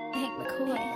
Hank McCoy.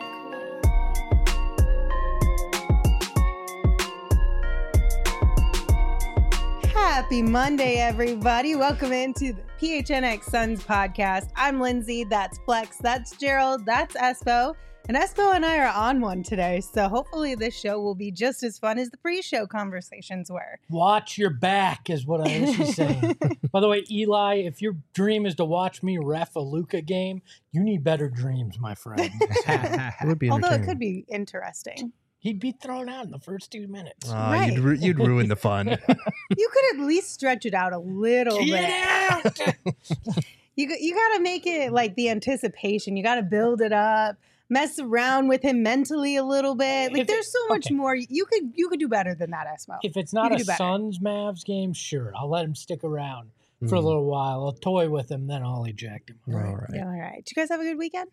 Happy Monday, everybody. Welcome into the PHNX Suns podcast. I'm Lindsay. That's Flex. That's Gerald. That's Espo. And Espo and I are on one today. So hopefully this show will be just as fun as the pre-show conversations were. Watch your back is what I was saying. By the way, Eli, if your dream is to watch me ref a Luka game, you need better dreams, my friend. It would be Although it could be interesting. He'd be thrown out in the first 2 minutes. Right. You'd ruin the fun. You could at least stretch it out a little Get bit. out! You got to make it like the anticipation. You got to build it up. Mess around with him mentally a little bit. Like there's so much more. You could do better than that, Esmo. If it's not a Suns-Mavs game, sure, I'll let him stick around for a little while. I'll toy with him, then I'll eject him. All right. Yeah, all right. Did you guys have a good weekend?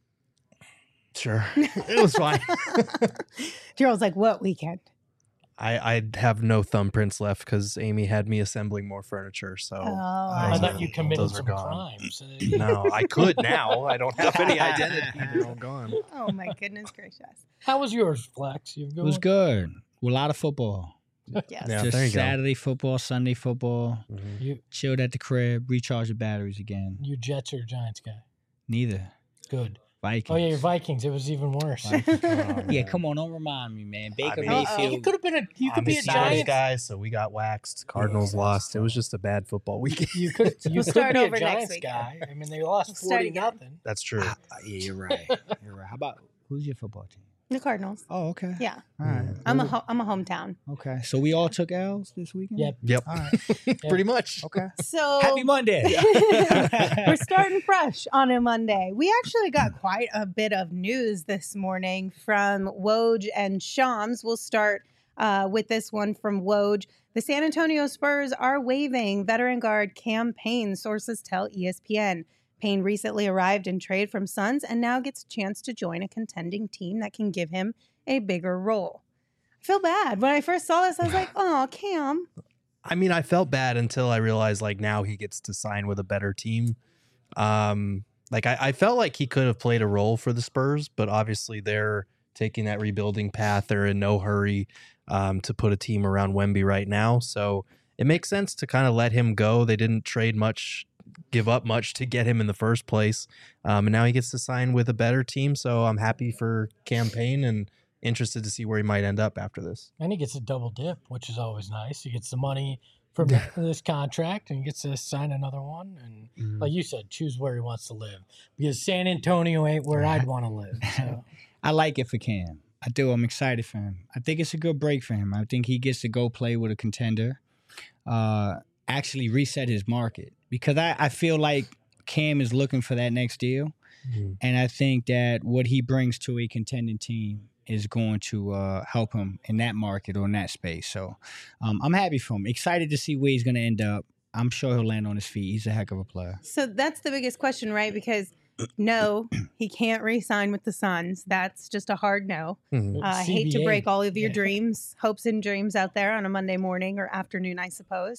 Sure. It was fine. Gerald's like, what weekend? I have no thumbprints left because Amy had me assembling more furniture. So I thought you committed those are some gone. crimes. No, I could now. I don't have any identity. They're all gone. Oh my goodness gracious. How was yours, Flex? It was good. With a lot of football. Yes. Yeah, Just there you go. Saturday football, Sunday football. Mhm. You, Chilled at the crib, recharged the batteries again. you Jets or Giants guy? Neither. Good. Vikings. Oh, yeah, your Vikings. It was even worse. Vikings. Oh, Yeah, man. come on, don't remind me, man. Baker mean- You Mayfield. could have been you could I'm be a a Steelers Giants guy, so we got waxed. Cardinals lost. It was just a bad football weekend. You could start be a over next Giants week. guy. I mean, they lost Start 40 again. nothing. That's true. Yeah, you're right. You're right. How about who's your football team? The Cardinals. Oh, okay. Yeah. All right. I'm a hometown. Okay. So we all took L's this weekend? Yep. Yep. All right. Pretty much. Okay. So Happy Monday. we're starting fresh on a Monday. We actually got quite a bit of news this morning from Woj and Shams. We'll start with this one from Woj. The San Antonio Spurs are waiving veteran guard Cam Payne, sources tell ESPN. Payne recently arrived in trade from Suns and now gets a chance to join a contending team that can give him a bigger role. I feel bad. When I first saw this, I was like, oh, Cam. I mean, I felt bad until I realized like now he gets to sign with a better team. I felt like he could have played a role for the Spurs, but obviously they're taking that rebuilding path. They're in no hurry to put a team around Wemby right now. So it makes sense to kind of let him go. They didn't give up much to get him in the first place. And now he gets to sign with a better team. So I'm happy for Cam Payne and interested to see where he might end up after this. And he gets a double dip, which is always nice. He gets the money from this contract and gets to sign another one. And like you said, choose where he wants to live. Because San Antonio ain't where I'd want to live. So. I like it for Cam. I do. I'm excited for him. I think it's a good break for him. I think he gets to go play with a contender, actually reset his market. Because I feel like Cam is looking for that next deal. And I think that what he brings to a contending team is going to help him in that market or in that space. So I'm happy for him. Excited to see where he's going to end up. I'm sure he'll land on his feet. He's a heck of a player. So that's the biggest question, right? Because no, he can't re-sign with the Suns. That's just a hard no. I hate to CBA. break all of your dreams, hopes and dreams out there on a Monday morning or afternoon, I suppose.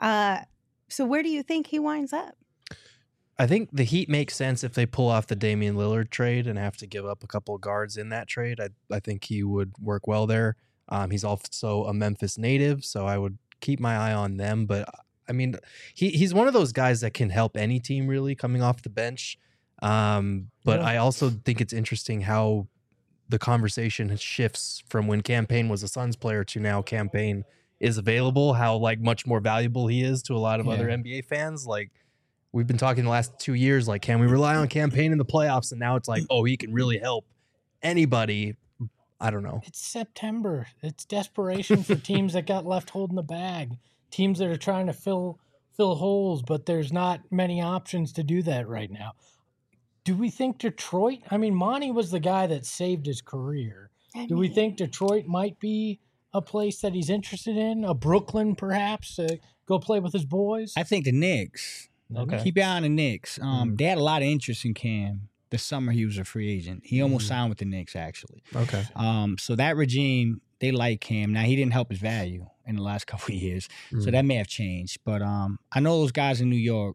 So where do you think he winds up? I think the Heat makes sense if they pull off the Damian Lillard trade and have to give up a couple of guards in that trade. I think he would work well there. He's also a Memphis native, so I would keep my eye on them. But I mean, he's one of those guys that can help any team really coming off the bench. But I also think it's interesting how the conversation shifts from when Cam Payne was a Suns player to now Cam Payne is available, how like much more valuable he is to a lot of other NBA fans. Like we've been talking the last 2 years, like, can we rely on Cam Payne in the playoffs? And now it's like, oh, he can really help anybody. I don't know. It's September. It's desperation for teams that got left holding the bag. Teams that are trying to fill holes, but there's not many options to do that right now. Do we think Detroit? I mean, Monty was the guy that saved his career. Do we think Detroit might be a place that he's interested in? A Brooklyn, perhaps, to go play with his boys? I think the Knicks. Okay. Keep your eye on the Knicks. They had a lot of interest in Cam the summer he was a free agent. He almost signed with the Knicks, actually. Okay. So that regime, they like Cam. Now, he didn't help his value in the last couple of years, so that may have changed. But I know those guys in New York,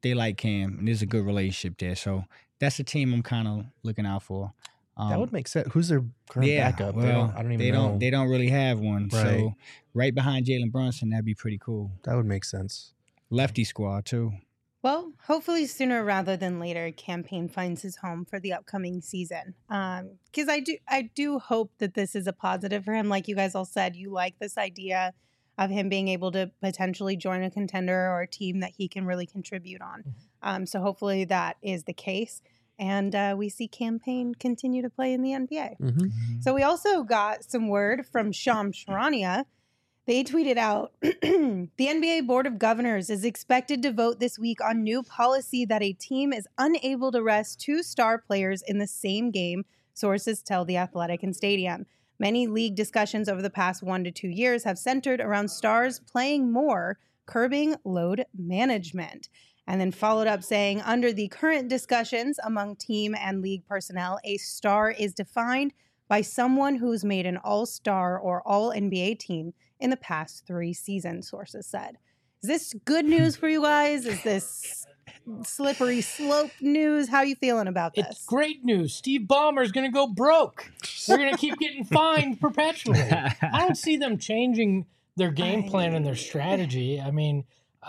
they like Cam, and there's a good relationship there. So that's a team I'm kind of looking out for. That would make sense. Who's their current backup? Well, I don't even know. They don't really have one. Right. So right behind Jalen Brunson, that'd be pretty cool. That would make sense. Lefty squad too. Well, hopefully sooner rather than later, Campaign finds his home for the upcoming season. Because I do hope that this is a positive for him. Like you guys all said, you like this idea of him being able to potentially join a contender or a team that he can really contribute on. So hopefully that is the case. And we see Campaign continue to play in the NBA. So we also got some word from Shams Charania. They tweeted out, the NBA Board of Governors is expected to vote this week on new policy that a team is unable to rest 2 star players in the same game, sources tell The Athletic and Stadium. Many league discussions over the past 1 to 2 years have centered around stars playing more, curbing load management. And then followed up saying, under the current discussions among team and league personnel, a star is defined by someone who's made an all-star or all-NBA team in the past 3 seasons, sources said. Is this good news for you guys? Is this slippery slope news? How are you feeling about this? It's great news. Steve Ballmer's going to go broke. They're going to keep getting fined perpetually. I don't see them changing their game plan and their strategy. I mean,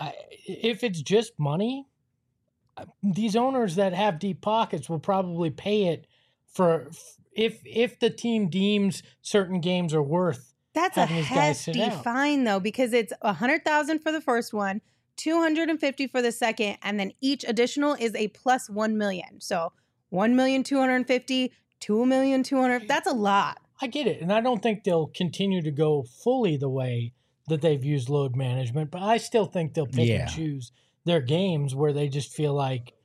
if it's just money, these owners that have deep pockets will probably pay it for if the team deems certain games are worth. That's a hefty fine though, because it's $100,000 for the first one, $250,000 for the second, and then each additional is a plus $1 million. So $1,250,000, $2,200,000. That's a lot. I get it, and I don't think they'll continue to go fully the way that they've used load management, but I still think they'll pick and choose their games where they just feel like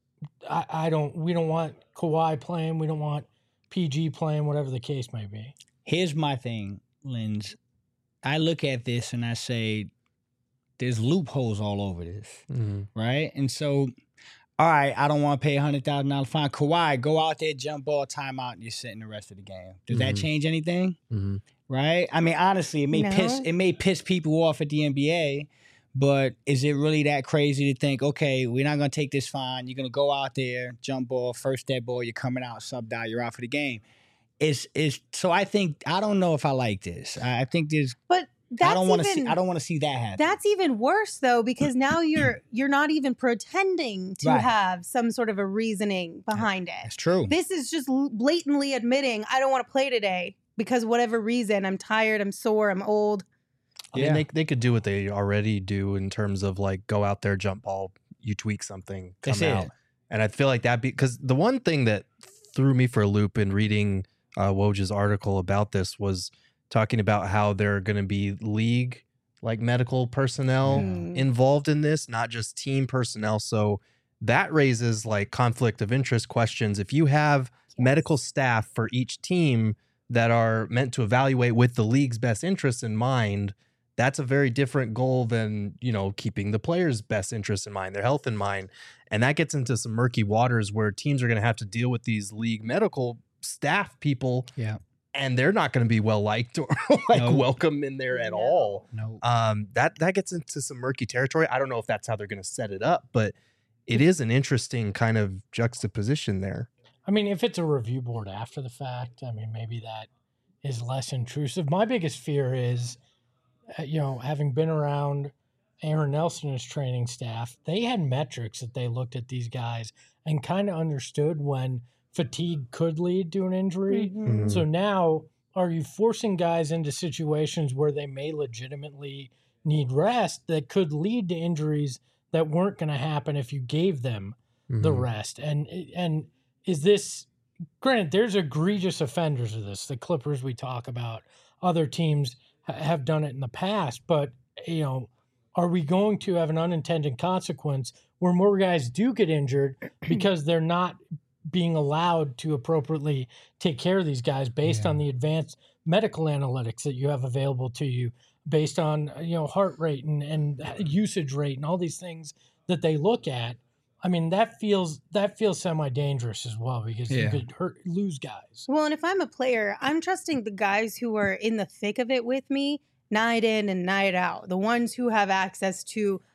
we don't want Kawhi playing, we don't want PG playing, whatever the case may be. Here's my thing, Linz. I look at this and I say, there's loopholes all over this, right? And so, all right, I don't want to pay $100,000 fine. Kawhi, go out there, jump ball, timeout, and you're sitting the rest of the game. Does that change anything? Right? I mean, honestly, it may piss people off at the NBA, but is it really that crazy to think, okay, we're not going to take this fine. You're going to go out there, jump ball, first dead ball, you're coming out, sub out, you're out for the game. So I think, I don't know if I like this. I think there's, but I don't want to see that happen. That's even worse though, because now you're not even pretending to have some sort of a reasoning behind it. That's true. This is just blatantly admitting, I don't want to play today because whatever reason, I'm tired, I'm sore, I'm old. I mean, they could do what they already do in terms of like go out there, jump ball, you tweak something, come out. And I feel like because the one thing that threw me for a loop in reading Woj's article about this was talking about how there are going to be league like medical personnel involved in this, not just team personnel. So that raises like conflict of interest questions. If you have medical staff for each team that are meant to evaluate with the league's best interests in mind, that's a very different goal than, keeping the players' best interests in mind, their health in mind. And that gets into some murky waters where teams are going to have to deal with these league medical staff people. Yeah. And they're not going to be well liked or welcome in there at all. No. That gets into some murky territory. I don't know if that's how they're going to set it up, but it is an interesting kind of juxtaposition there. I mean, if it's a review board after the fact, I mean, maybe that is less intrusive. My biggest fear is, having been around Aaron Nelson's training staff, they had metrics that they looked at these guys and kind of understood when fatigue could lead to an injury. So now, are you forcing guys into situations where they may legitimately need rest that could lead to injuries that weren't going to happen if you gave them the rest? And is this, granted, there's egregious offenders of this. The Clippers we talk about, other teams have done it in the past, but, are we going to have an unintended consequence where more guys do get injured because they're not being allowed to appropriately take care of these guys based on the advanced medical analytics that you have available to you, based on, heart rate and usage rate and all these things that they look at? I mean, that feels semi-dangerous as well, because you could lose guys. Well, and if I'm a player, I'm trusting the guys who are in the thick of it with me, night in and night out, the ones who have access to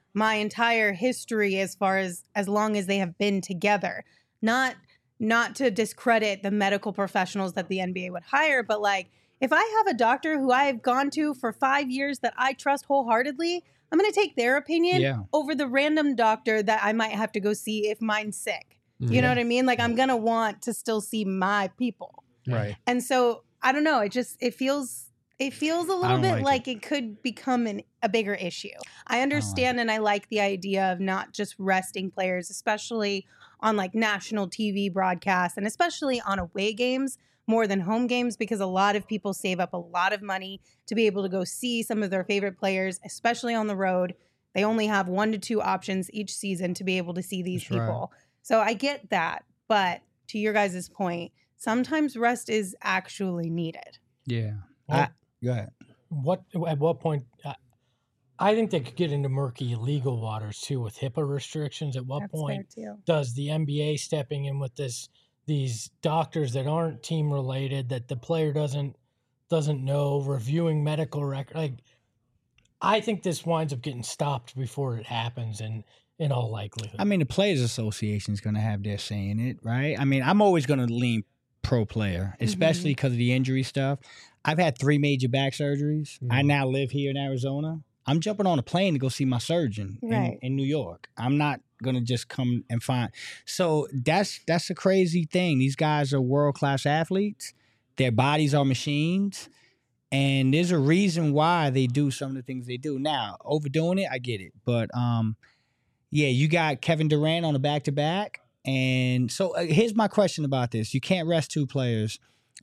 my entire history as far as long as they have been together. Not to discredit the medical professionals that the NBA would hire, but like if I have a doctor who I've gone to for 5 years that I trust wholeheartedly, I'm going to take their opinion over the random doctor that I might have to go see if mine's sick. You know what I mean? Like I'm going to want to still see my people. Right. And so I don't know. It feels a little bit like it could become a bigger issue. I understand and I like the idea of not just resting players, especially on like national TV broadcasts and especially on away games more than home games, because a lot of people save up a lot of money to be able to go see some of their favorite players, especially on the road. They only have 1 to 2 options each season to be able to see these people. Right. So I get that. But to your guys' point, sometimes rest is actually needed. Yeah. Well, go ahead. At what point? I think they could get into murky legal waters too with HIPAA restrictions. At what point does the NBA stepping in with these doctors that aren't team related, that the player doesn't know, reviewing medical record? Like, I think this winds up getting stopped before it happens, and in all likelihood. I mean, the Players Association is going to have their say in it, right? I mean, I'm always going to lean pro player, especially because of the injury stuff. I've had 3 major back surgeries. I now live here in Arizona. I'm jumping on a plane to go see my surgeon in New York. I'm not going to just come and find. So that's a crazy thing. These guys are world-class athletes. Their bodies are machines. And there's a reason why they do some of the things they do. Now, overdoing it, I get it. But, you got Kevin Durant on a back-to-back. And so here's my question about this. You can't rest 2 players.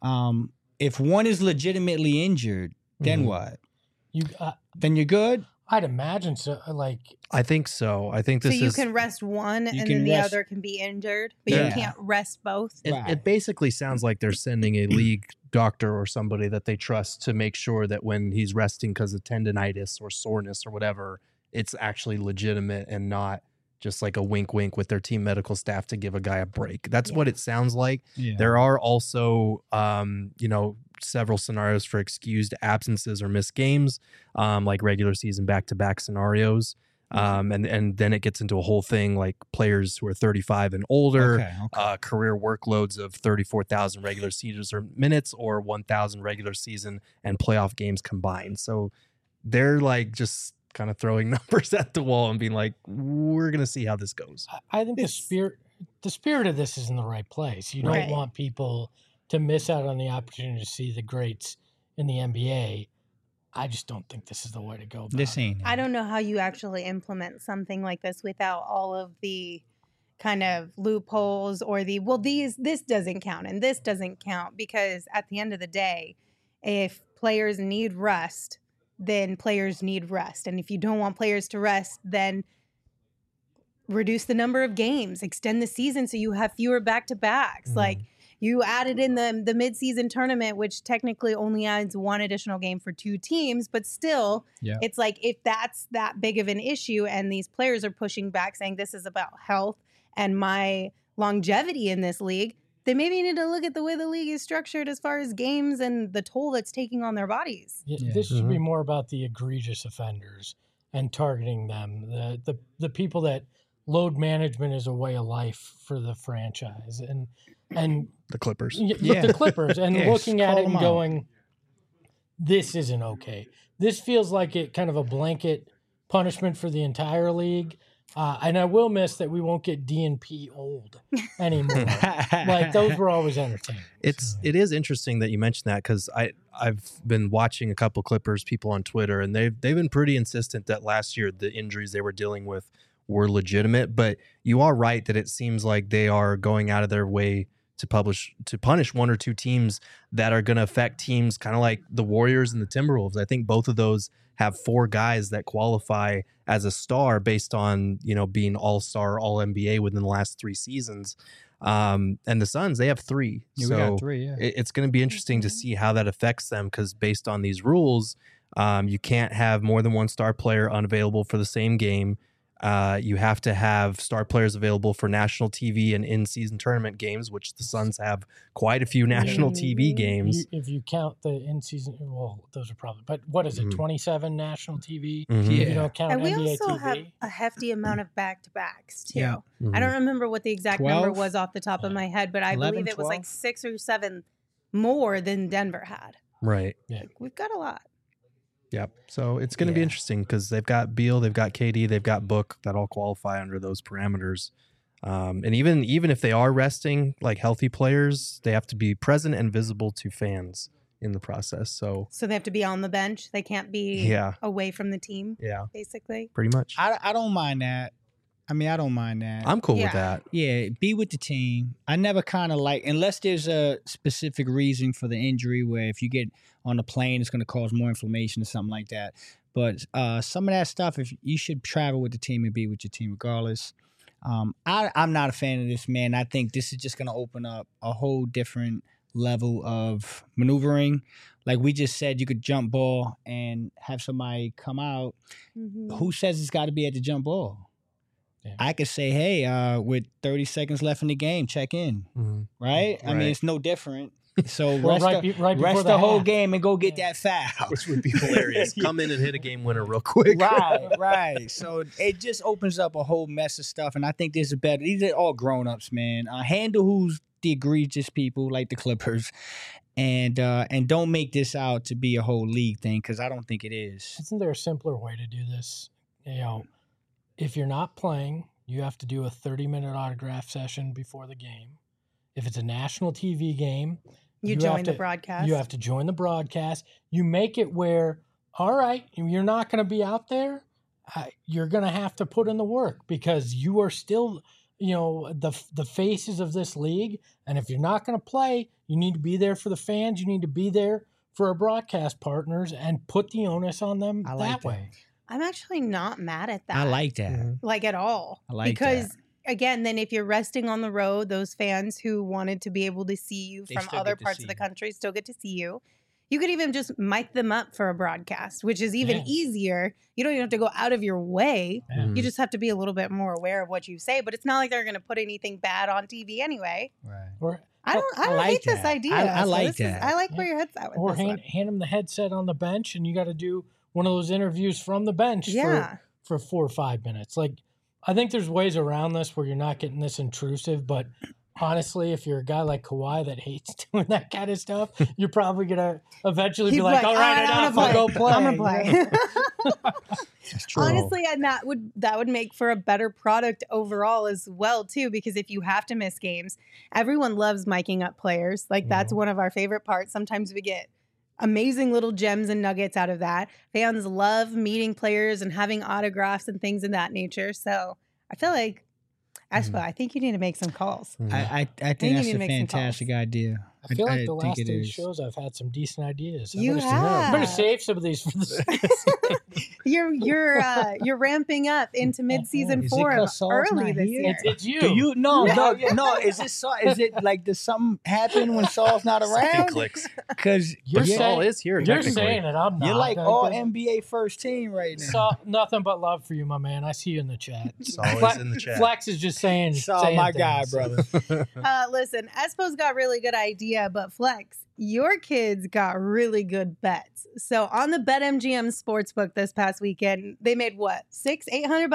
If one is legitimately injured, then what? Then you're good? I'd imagine so. Like, I think so. I think this is... So you can rest one and then the other can be injured, but you can't rest both? It basically sounds like they're sending a league doctor or somebody that they trust to make sure that when he's resting because of tendonitis or soreness or whatever, it's actually legitimate and not just like a wink with their team medical staff to give a guy a break. That's what it sounds like. Yeah. There are also, several scenarios for excused absences or missed games, like regular season back-to-back scenarios. And then it gets into a whole thing like players who are 35 and older, career workloads of 34,000 regular seasons or minutes or 1,000 regular season and playoff games combined. So they're like just kind of throwing numbers at the wall and being like, we're going to see how this goes. I think the spirit of this is in the right place. You don't want people to miss out on the opportunity to see the greats in the NBA. I just don't think this is the way to go. I don't know how you actually implement something like this without all of the kind of loopholes or this doesn't count and this doesn't count, because at the end of the day, if players need rest, then players need rest. And if you don't want players to rest, then reduce the number of games, extend the season so you have fewer back-to-backs. Like, you added in the mid-season tournament, which technically only adds 1 additional game for 2 teams, but still, it's like if that's that big of an issue and these players are pushing back saying this is about health and my longevity in this league, they maybe need to look at the way the league is structured as far as games and the toll that's taking on their bodies. This should be more about the egregious offenders and targeting them, the people that load management is a way of life for the franchise, and the Clippers. The Clippers, and looking at it and going, this isn't okay. This feels like it kind of a blanket punishment for the entire league. And I will miss that we won't get DNP old anymore. Like, those were always entertaining. It is interesting that you mentioned that, because I've been watching a couple Clippers people on Twitter, and they've been pretty insistent that last year the injuries they were dealing with were legitimate. But you are right that it seems like they are going out of their way to punish 1 or 2 teams that are going to affect teams kind of like the Warriors and the Timberwolves. I think both of those have 4 guys that qualify as a star based on, being all-star, all-NBA within the last 3 seasons. And the Suns, they have 3. We got 3, it's going to be interesting to see how that affects them, because based on these rules, you can't have more than 1 star player unavailable for the same game. You have to have star players available for national TV and in-season tournament games, which the Suns have quite a few national TV games. If you count the in-season, well, those are probably. But what is it? 27 national TV. Mhm. You Yeah. don't count And we NBA also TV. have a hefty amount of back-to-backs too. Yeah. I don't remember what the exact number 12? was off the top of my head, but I 11, believe it was like 12? 6 or 7 more than Denver had. Right. We've got a lot. Yep. So it's going to be Yeah. interesting because they've got Beal, they've got KD, they've got Book that all qualify under those parameters. And even if they are resting like healthy players, they have to be present and visible to fans in the process. So So they have to be on the bench. They can't be yeah, away from the team, yeah, basically. pretty much. I don't mind that. I mean, I don't mind that. I'm cool Yeah. with that. Yeah, be with the team. I never kind of like, unless there's a specific reason for the injury where if you get on the plane, it's going to cause more inflammation or something like that. But some of that stuff, if you should travel with the team and be with your team regardless. I'm not a fan of this, man. I think this is just going to open up a whole different level of maneuvering. Like we just said, you could jump ball and have somebody come out. Mhm. Who says it's got to be at the jump ball? Yeah. I could say, hey, with 30 seconds left in the game, check in, Mhm. right? I mean, Right. it's no different. So Well, rest, right before rest the the whole half. game and go get that foul. Which would be hilarious. Come in and hit a game winner real quick. right. So it just opens up a whole mess of stuff, and I think there's a better. These are all grown-ups, man. Handle who's the egregious people like the Clippers, and don't make this out to be a whole league thing because I don't think it is. Isn't there a simpler way to do this? You know, if you're not playing, you have to do a 30-minute autograph session before the game. If it's a national TV game, You have join the to- broadcast. You have to join the broadcast. You make it where, all right, you're not going to be out there. You're going to have to put in the work because you are still, the faces of this league. And if you're not going to play, you need to be there for the fans. You need to be there for our broadcast partners and put the onus on them I like that that. way. I'm actually not mad at that. I like that. Mhm. like at all. I like because that. again, then if you're resting on the road, those fans who wanted to be able to see you They from still other get to parts see of the you. country still get to see you. You could even just mic them up for a broadcast, which is even Yeah. easier. You don't even have to go out of your way. Yeah. You just have to be a little bit more aware of what you say, but it's not like they're going to put anything bad on TV anyway. Right. Or I don't like hate this that. idea. I So like this is- that. I like where your head's at with or this hand, one. hand them the headset on the bench and you got to do one of those interviews from the bench Yeah. for 4 or 5 minutes. Like, I think there's ways around this where you're not getting this intrusive, but honestly, if you're a guy like Kawhi that hates doing that kind of stuff, you're probably going to eventually He'd be like, all right, "I'm enough, gonna I'll go play. I'm gonna play. That's true. Honestly, and that would make for a better product overall as well too. Because if you have to miss games, everyone loves miking up players. Like that's one of our favorite parts. Sometimes we get amazing little gems and nuggets out of that. Fans love meeting players and having autographs and things of that nature. So I feel like, Espo, I think you need to make some calls. Mhm. I you think need that's to a make some calls. fantastic idea. I feel like the think last it 8 is. shows I've had some decent ideas. You I'm have. going to save some of these for the You're ramping up into mid-season Is it form 'cause Saul's early not this here? year. It's you. Do you no. Is it is it like does something happen when Saul's not Second around? clicks. Because You're But saying- Saul is here. You're technically. saying it. I'm not. you're like Like, all there's- NBA first team right now. So, nothing but love for you, my man. I see you in the chat. Saul is in the chat. Flex is just saying. Saul, saying my guy, things. brother. Listen, Espo's got really good idea, but Flex, your kids got really good bets. So on the BetMGM Sportsbook this past weekend, they made what, $800?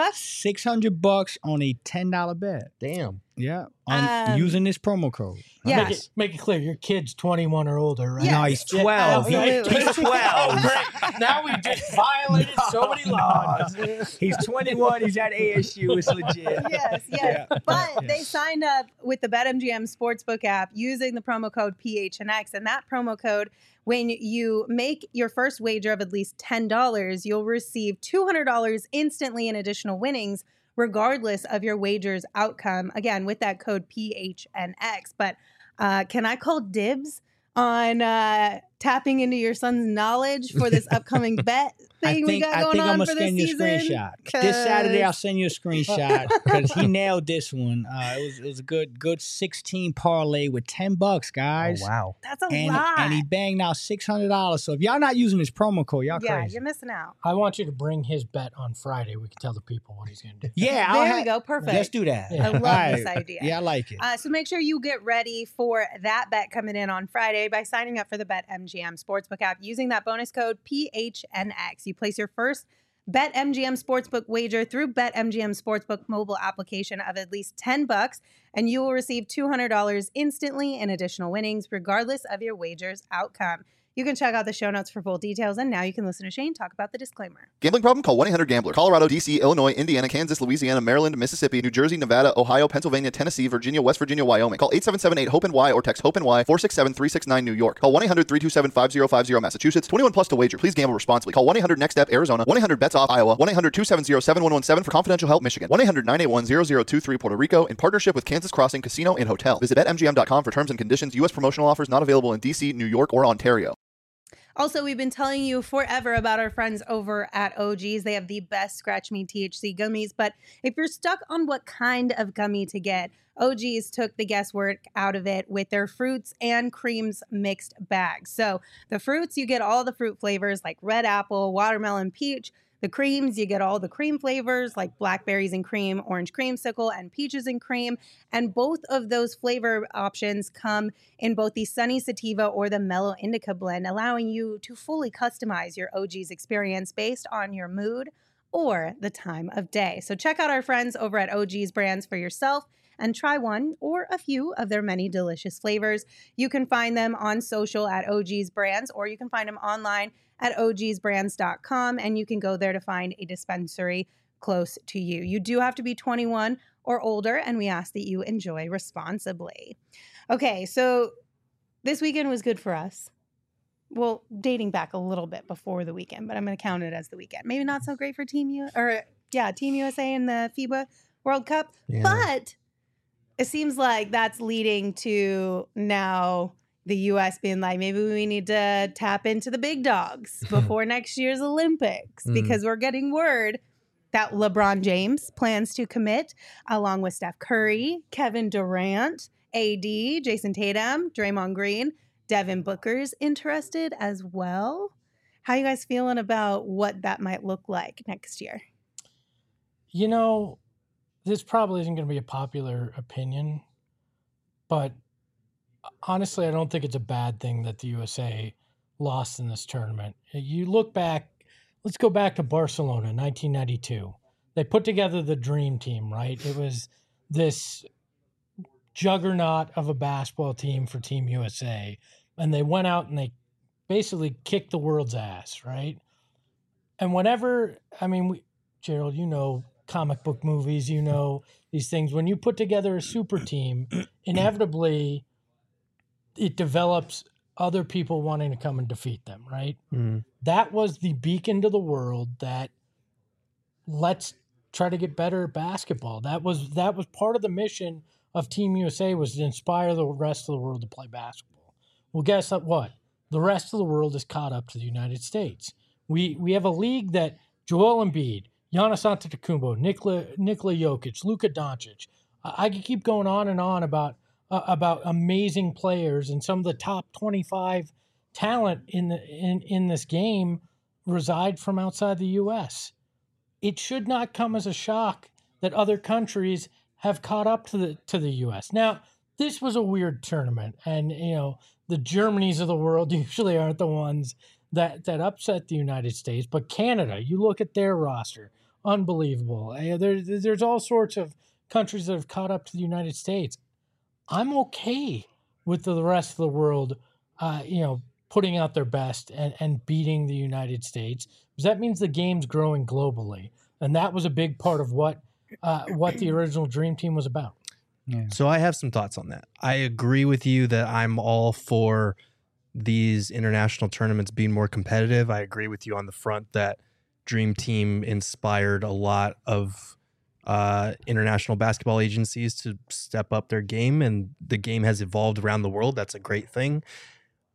$600 on a $10 bet. Damn. Yeah, using this promo code. Yeah. Make it clear. Your kid's 21 or older, right? Yeah. No, he's 12. absolutely. He's 12. Oh, great. Now we just violated so many laws. He's 21. He's at ASU. It's legit. Yes. Yeah. But Yeah. they signed up with the BetMGM Sportsbook app using the promo code PHNX. And that promo code, when you make your first wager of at least $10, you'll receive $200 instantly in additional winnings, regardless of your wager's outcome. Again, with that code PHNX. But can I call dibs on tapping into your son's knowledge for this upcoming bet? thing we got going on for this send you a season? screenshot. This Saturday, I'll send you a screenshot because he nailed this one. It was a good 16 parlay with $10, guys. Oh, wow. That's a And, lot. and he banged out $600. So if y'all not using his promo code, y'all yeah, crazy. you're missing out. I want you to bring his bet on Friday. We can tell the people what he's going to do. Yeah, There we go. Perfect. Let's do that. Yeah. I love All this right. idea. Yeah, I like it. So make sure you get ready for that bet coming in on Friday by signing up for the BetMGM Sportsbook app using that bonus code PHNX. You place your first BetMGM Sportsbook wager through BetMGM Sportsbook mobile application of at least $10, and you will receive $200 instantly in additional winnings, regardless of your wager's outcome. You can check out the show notes for full details, and now you can listen to Shane talk about the disclaimer. Gambling problem? Call 1-800-GAMBLER. Colorado, D.C., Illinois, Indiana, Kansas, Louisiana, Maryland, Mississippi, New Jersey, Nevada, Ohio, Pennsylvania, Tennessee, Virginia, West Virginia, Wyoming. Call 877-8-HOPE-NY or text HOPE-NY 467-369 New York. Call 1-800-327-5050 Massachusetts. 21 plus to wager. Please gamble responsibly. Call 1-800-NEXT-STEP Arizona. 1-800-BETS-OFF Iowa. 1-800-270-7117 for confidential help Michigan. 1-800-981-0023 Puerto Rico in partnership with Kansas Crossing Casino and Hotel. Visit BetMGM.com for terms and conditions. U.S. promotional offers not available in D.C., New York, or Ontario. Also, we've been telling you forever about our friends over at OG's. They have the best Scratch Me THC gummies, but if you're stuck on what kind of gummy to get, OG's took the guesswork out of it with their fruits and creams mixed bags. So the fruits, you get all the fruit flavors like red apple, watermelon, peach. The creams, you get all the cream flavors like blackberries and cream, orange creamsicle, and peaches and cream. And both of those flavor options come in both the Sunny Sativa or the Mellow Indica blend, allowing you to fully customize your OG's experience based on your mood or the time of day. So check out our friends over at OG's Brands for yourself and try one or a few of their many delicious flavors. You can find them on social at OG's Brands, or you can find them online at ogsbrands.com, and you can go there to find a dispensary close to you. You do have to be 21 or older, and we ask that you enjoy responsibly. Okay, so this weekend was good for us. Well, dating back a little bit before the weekend, but I'm going to count it as the weekend. Maybe not so great for Team USA in the FIBA World Cup, but it seems like that's leading to now the U.S. being like, maybe we need to tap into the big dogs before next year's Olympics, because we're getting word that LeBron James plans to commit, along with Steph Curry, Kevin Durant, AD, Jason Tatum, Draymond Green, Devin Booker's interested as well. How you guys feeling about what that might look like next year? You know, this probably isn't going to be a popular opinion, but honestly, I don't think it's a bad thing that the USA lost in this tournament. You look back, let's go back to Barcelona, 1992. They put together the dream team, right? It was this juggernaut of a basketball team for Team USA, and they went out and they basically kicked the world's ass, right? And whenever, I mean, Gerald, you know comic book movies, you know these things. When you put together a super team, inevitably it develops other people wanting to come and defeat them, right? That was the beacon to the world that let's try to get better at basketball. That was part of the mission of Team USA, was to inspire the rest of the world to play basketball. Well, guess what? The rest of the world is caught up to the United States. We have a league that Joel Embiid, Giannis Antetokounmpo, Nikola Jokic, Luka Doncic. I could keep going on and on about amazing players, and some of the top 25 talent in this game reside from outside the U.S. It should not come as a shock that other countries have caught up to the U.S. Now, this was a weird tournament, and the Germanys of the world usually aren't the ones that upset the United States. But Canada, you look at their roster, unbelievable. There's all sorts of countries that have caught up to the United States. I'm okay with the rest of the world, putting out their best and beating the United States, because that means the game's growing globally, and that was a big part of what the original Dream Team was about. Yeah. So I have some thoughts on that. I agree with you that I'm all for these international tournaments being more competitive. I agree with you on the front that Dream Team inspired a lot of international basketball agencies to step up their game, and the game has evolved around the world. That's a great thing.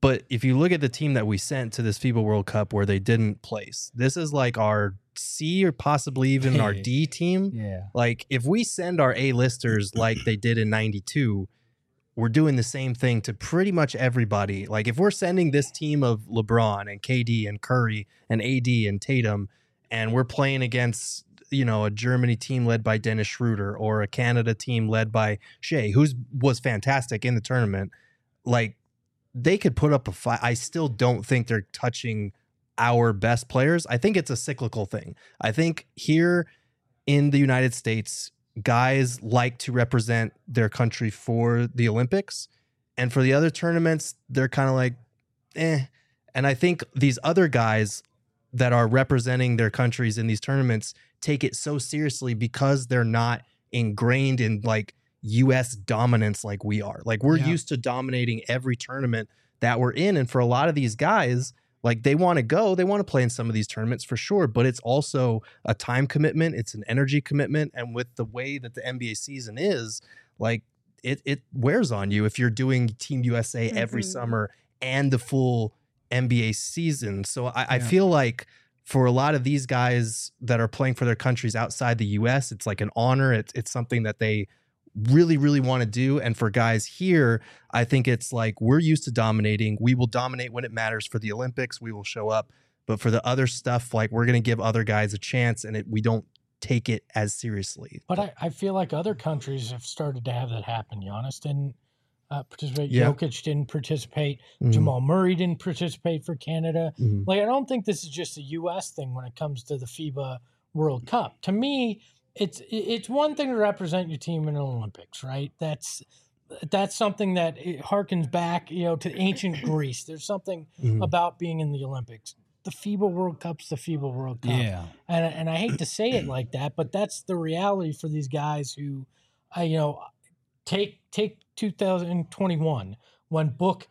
But if you look at the team that we sent to this FIBA World Cup where they didn't place, this is like our C or possibly even our D team. Yeah. Like if we send our A-listers like they did in 92, we're doing the same thing to pretty much everybody. Like if we're sending this team of LeBron and KD and Curry and AD and Tatum, and we're playing against, a Germany team led by Dennis Schroeder or a Canada team led by Shea, who was fantastic in the tournament, like they could put up a fight. I still don't think they're touching our best players. I think it's a cyclical thing. I think here in the United States, guys like to represent their country for the Olympics, and for the other tournaments, they're kind of like, eh. And I think these other guys that are representing their countries in these tournaments take it so seriously because they're not ingrained in like U.S. dominance like we are. Like we're used to dominating every tournament that we're in. And for a lot of these guys, like they want to play in some of these tournaments for sure, but it's also a time commitment. It's an energy commitment. And with the way that the NBA season is, like it wears on you if you're doing Team USA every summer and the full NBA season. So I feel like for a lot of these guys that are playing for their countries outside the US, it's like an honor. It's something that they really, really want to do. And for guys here, I think it's like we're used to dominating. We will dominate when it matters for the Olympics. We will show up. But for the other stuff, like we're going to give other guys a chance, and we don't take it as seriously. But I feel like other countries have started to have that happen. Giannis didn't participate. Yeah. Jokic didn't participate. Jamal Murray didn't participate for Canada. Like, I don't think this is just a U.S. thing when it comes to the FIBA World Cup. To me, it's one thing to represent your team in the Olympics, right? That's something that it harkens back, to ancient Greece. There's something about being in the Olympics. The FIBA World Cup's the FIBA World Cup. Yeah. And I hate to say it like that, but that's the reality for these guys who, take 2021 when Book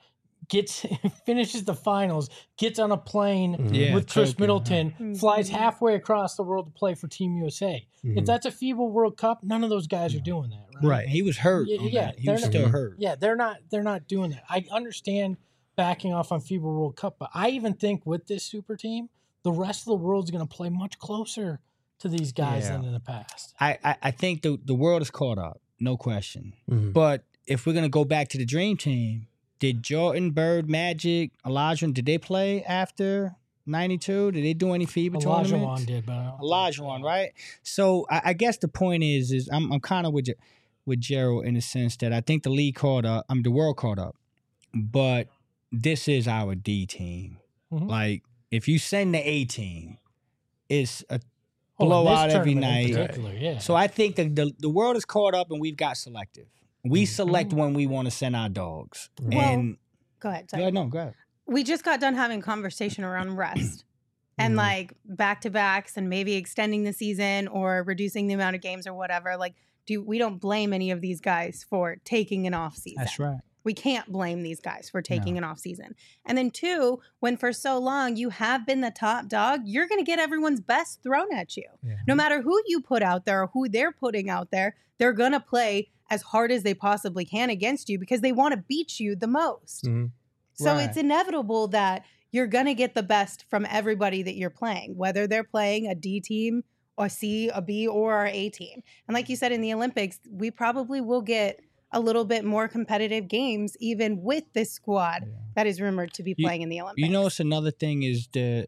finishes the finals, gets on a plane with Chris Tokyo, Middleton, flies halfway across the world to play for Team USA. If that's a FIBA World Cup, none of those guys are doing that, right? Right. He was hurt. Yeah, he was still hurt. Yeah, they're not doing that. I understand backing off on FIBA World Cup, but I even think with this super team, the rest of the world's going to play much closer to these guys than in the past. I think the world is caught up, no question. But if we're going to go back to the Dream Team, did Jordan, Bird, Magic, Olajuwon, did they play after 92? Did they do any FIBA tournaments? Olajuwon did, but Olajuwon, right? So I guess the point is I'm kind of with Gerald in the sense that I think the league caught up. The world caught up, but this is our D team. Like if you send the A team, it's a blowout every night. Yeah. So I think that the world is caught up and we've got selective. We select when we want to send our dogs. Well, And go ahead. Sorry. no, go ahead. We just got done having conversation around rest and like back-to-backs and maybe extending the season or reducing the amount of games or whatever. Like, we don't blame any of these guys for taking an off season. That's right. We can't blame these guys for taking an off season. And then two, when for so long you have been the top dog, you're going to get everyone's best thrown at you. Yeah. No matter who you put out there or who they're putting out there, they're going to play as hard as they possibly can against you because they want to beat you the most. So it's inevitable that you're going to get the best from everybody that you're playing, whether they're playing a D team, a C, a B, or our A team. And like you said, in the Olympics, we probably will get a little bit more competitive games, even with this squad that is rumored to be playing in the Olympics. You know, it's another thing is the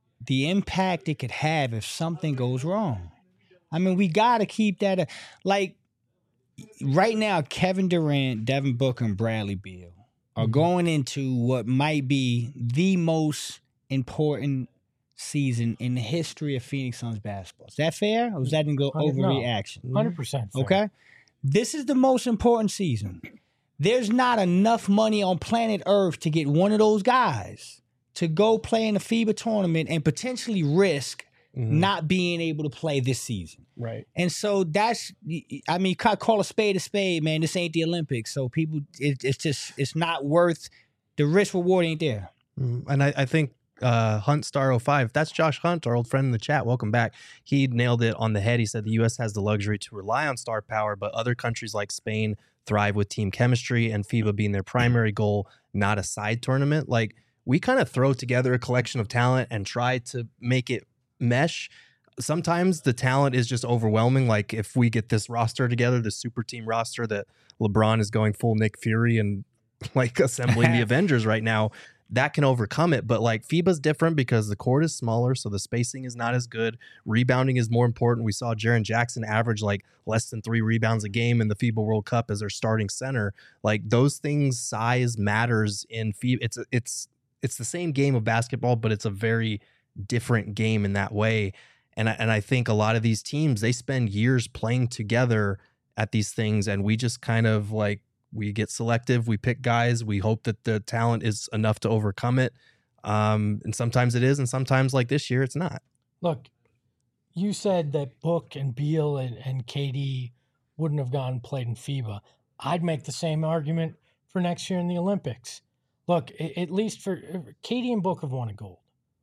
impact it could have if something goes wrong. I mean, we got to keep that. Like, right now, Kevin Durant, Devin Booker, and Bradley Beal are going into what might be the most important season in the history of Phoenix Suns basketball. Is that fair? Or was that an overreaction? 100%. Okay. This is the most important season. There's not enough money on planet Earth to get one of those guys to go play in a FIBA tournament and potentially risk not being able to play this season. Right. And so that's, I mean, call a spade, man. This ain't the Olympics. So people, it's not worth, the risk reward ain't there. And I think Hunt Star 05. That's Josh Hunt, our old friend in the chat. Welcome back. He nailed it on the head. He said the U.S. has the luxury to rely on star power, but other countries like Spain thrive with team chemistry and FIBA being their primary goal, not a side tournament. Like, we kind of throw together a collection of talent and try to make it mesh. Sometimes the talent is just overwhelming. Like, if we get this roster together, this super team roster that LeBron is going full Nick Fury and like assembling the Avengers right now, that can overcome it. But like, FIBA's different because the court is smaller, so the spacing is not as good. Rebounding is more important. We saw Jaren Jackson average like less than 3 rebounds a game in the FIBA World Cup as their starting center. Like, those things, size matters in FIBA. It's the same game of basketball, but it's a very different game in that way. And I think a lot of these teams, they spend years playing together at these things, and we just kind of like, we get selective, we pick guys, we hope that the talent is enough to overcome it. And sometimes it is, and sometimes, like this year, it's not. Look, you said that Book and Beal and KD wouldn't have gone and played in FIBA. I'd make the same argument for next year in the Olympics. Look, at least for KD and Book have won a gold.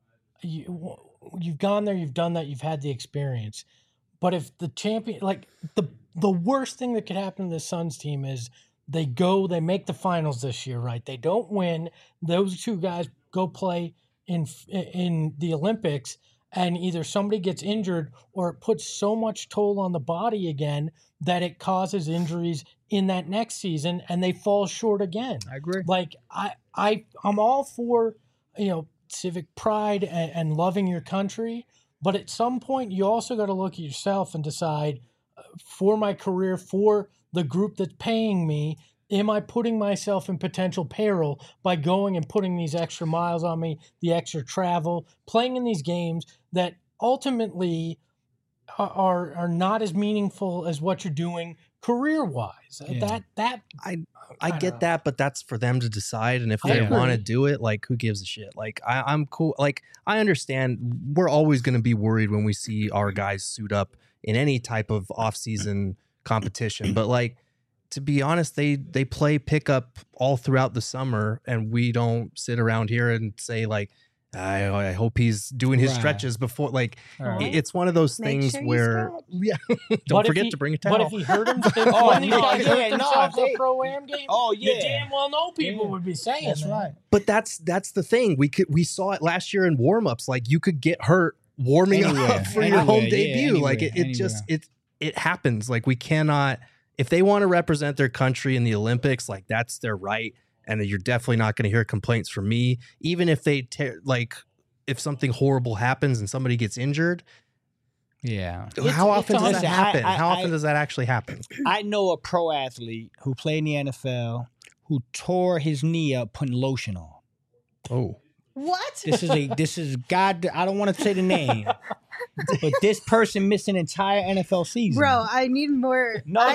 You've gone there, you've done that, you've had the experience. But if the champion, like the worst thing that could happen to the Suns team is they make the finals this year, right? They don't win. Those two guys go play in the Olympics, and either somebody gets injured or it puts so much toll on the body again that it causes injuries in that next season, and they fall short again. I agree. Like, I'm all for, civic pride and loving your country, but at some point you also got to look at yourself and decide, for my career, for the group that's paying me, am I putting myself in potential peril by going and putting these extra miles on me, the extra travel, playing in these games that ultimately are not as meaningful as what you're doing career-wise? Yeah. I get that, but that's for them to decide. And if they want to do it, like, who gives a shit? Like, I'm cool. Like, I understand we're always going to be worried when we see our guys suit up in any type of off-season competition. But like, to be honest, they play pickup all throughout the summer, and we don't sit around here and say like, I hope he's doing his stretches before. Like, it's one of those things where, don't forget to bring a towel. But if he hurt himself, the pro-am game, you damn well know people would be saying that's right. But that's the thing. We saw it last year in warm-ups. Like, you could get hurt warming up for your home debut. Like, it happens. Like, we cannot, if they want to represent their country in the Olympics, like, that's their right. And you're definitely not going to hear complaints from me, even if they if something horrible happens and somebody gets injured. Yeah. How often does that happen? How often does that actually happen? I know a pro athlete who played in the NFL who tore his knee up putting lotion on. Oh. What? This is God. I don't want to say the name, but this person missed an entire NFL season. Bro, I need more. No.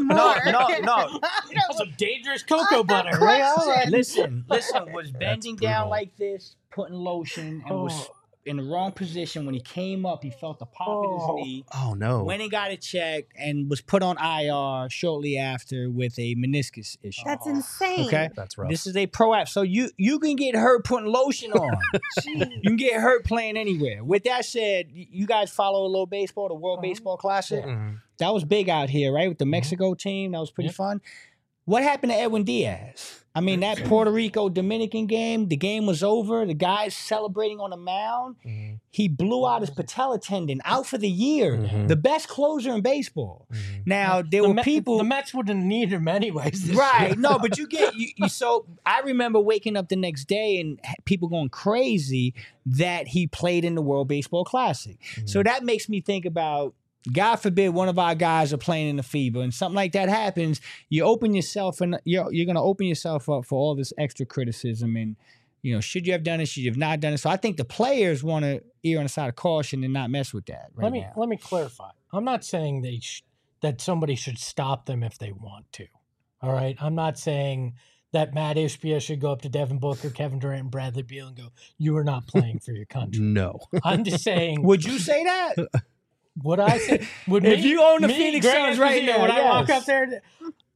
Some dangerous cocoa butter. Right? Listen. Was bending down like this, putting lotion, and was in the wrong position. When he came up, he felt the pop in his knee. Oh no! Went and got it checked and was put on IR shortly after with a meniscus issue. That's insane. Okay, that's rough. This is a pro app, so you can get hurt putting lotion on. You can get hurt playing anywhere. With that said, you guys follow a little baseball, the World Baseball Classic. Mm-hmm. That was big out here, right? With the Mexico team, that was pretty fun. What happened to Edwin Diaz? I mean, that Puerto Rico Dominican game, the game was over. The guy's celebrating on the mound. Mm-hmm. He blew out his patella tendon, out for the year. Mm-hmm. The best closer in baseball. Mm-hmm. Now, there were people. The Mets wouldn't need him anyways. Right. No, but you get you. So I remember waking up the next day and people going crazy that he played in the World Baseball Classic. Mm-hmm. So that makes me think about, God forbid one of our guys are playing in the FIBA and something like that happens, you open yourself and you're going to open yourself up for all this extra criticism and, should you have done it? Should you have not done it? So I think the players want to err on the side of caution and not mess with that Let me clarify. I'm not saying that somebody should stop them if they want to. All right? I'm not saying that Matt Ishbia should go up to Devin Booker, Kevin Durant, and Bradley Beal and go, you are not playing for your country. No. I'm just saying. Would you say that? Would I say? If you own the Phoenix Suns right now, would I walk up there?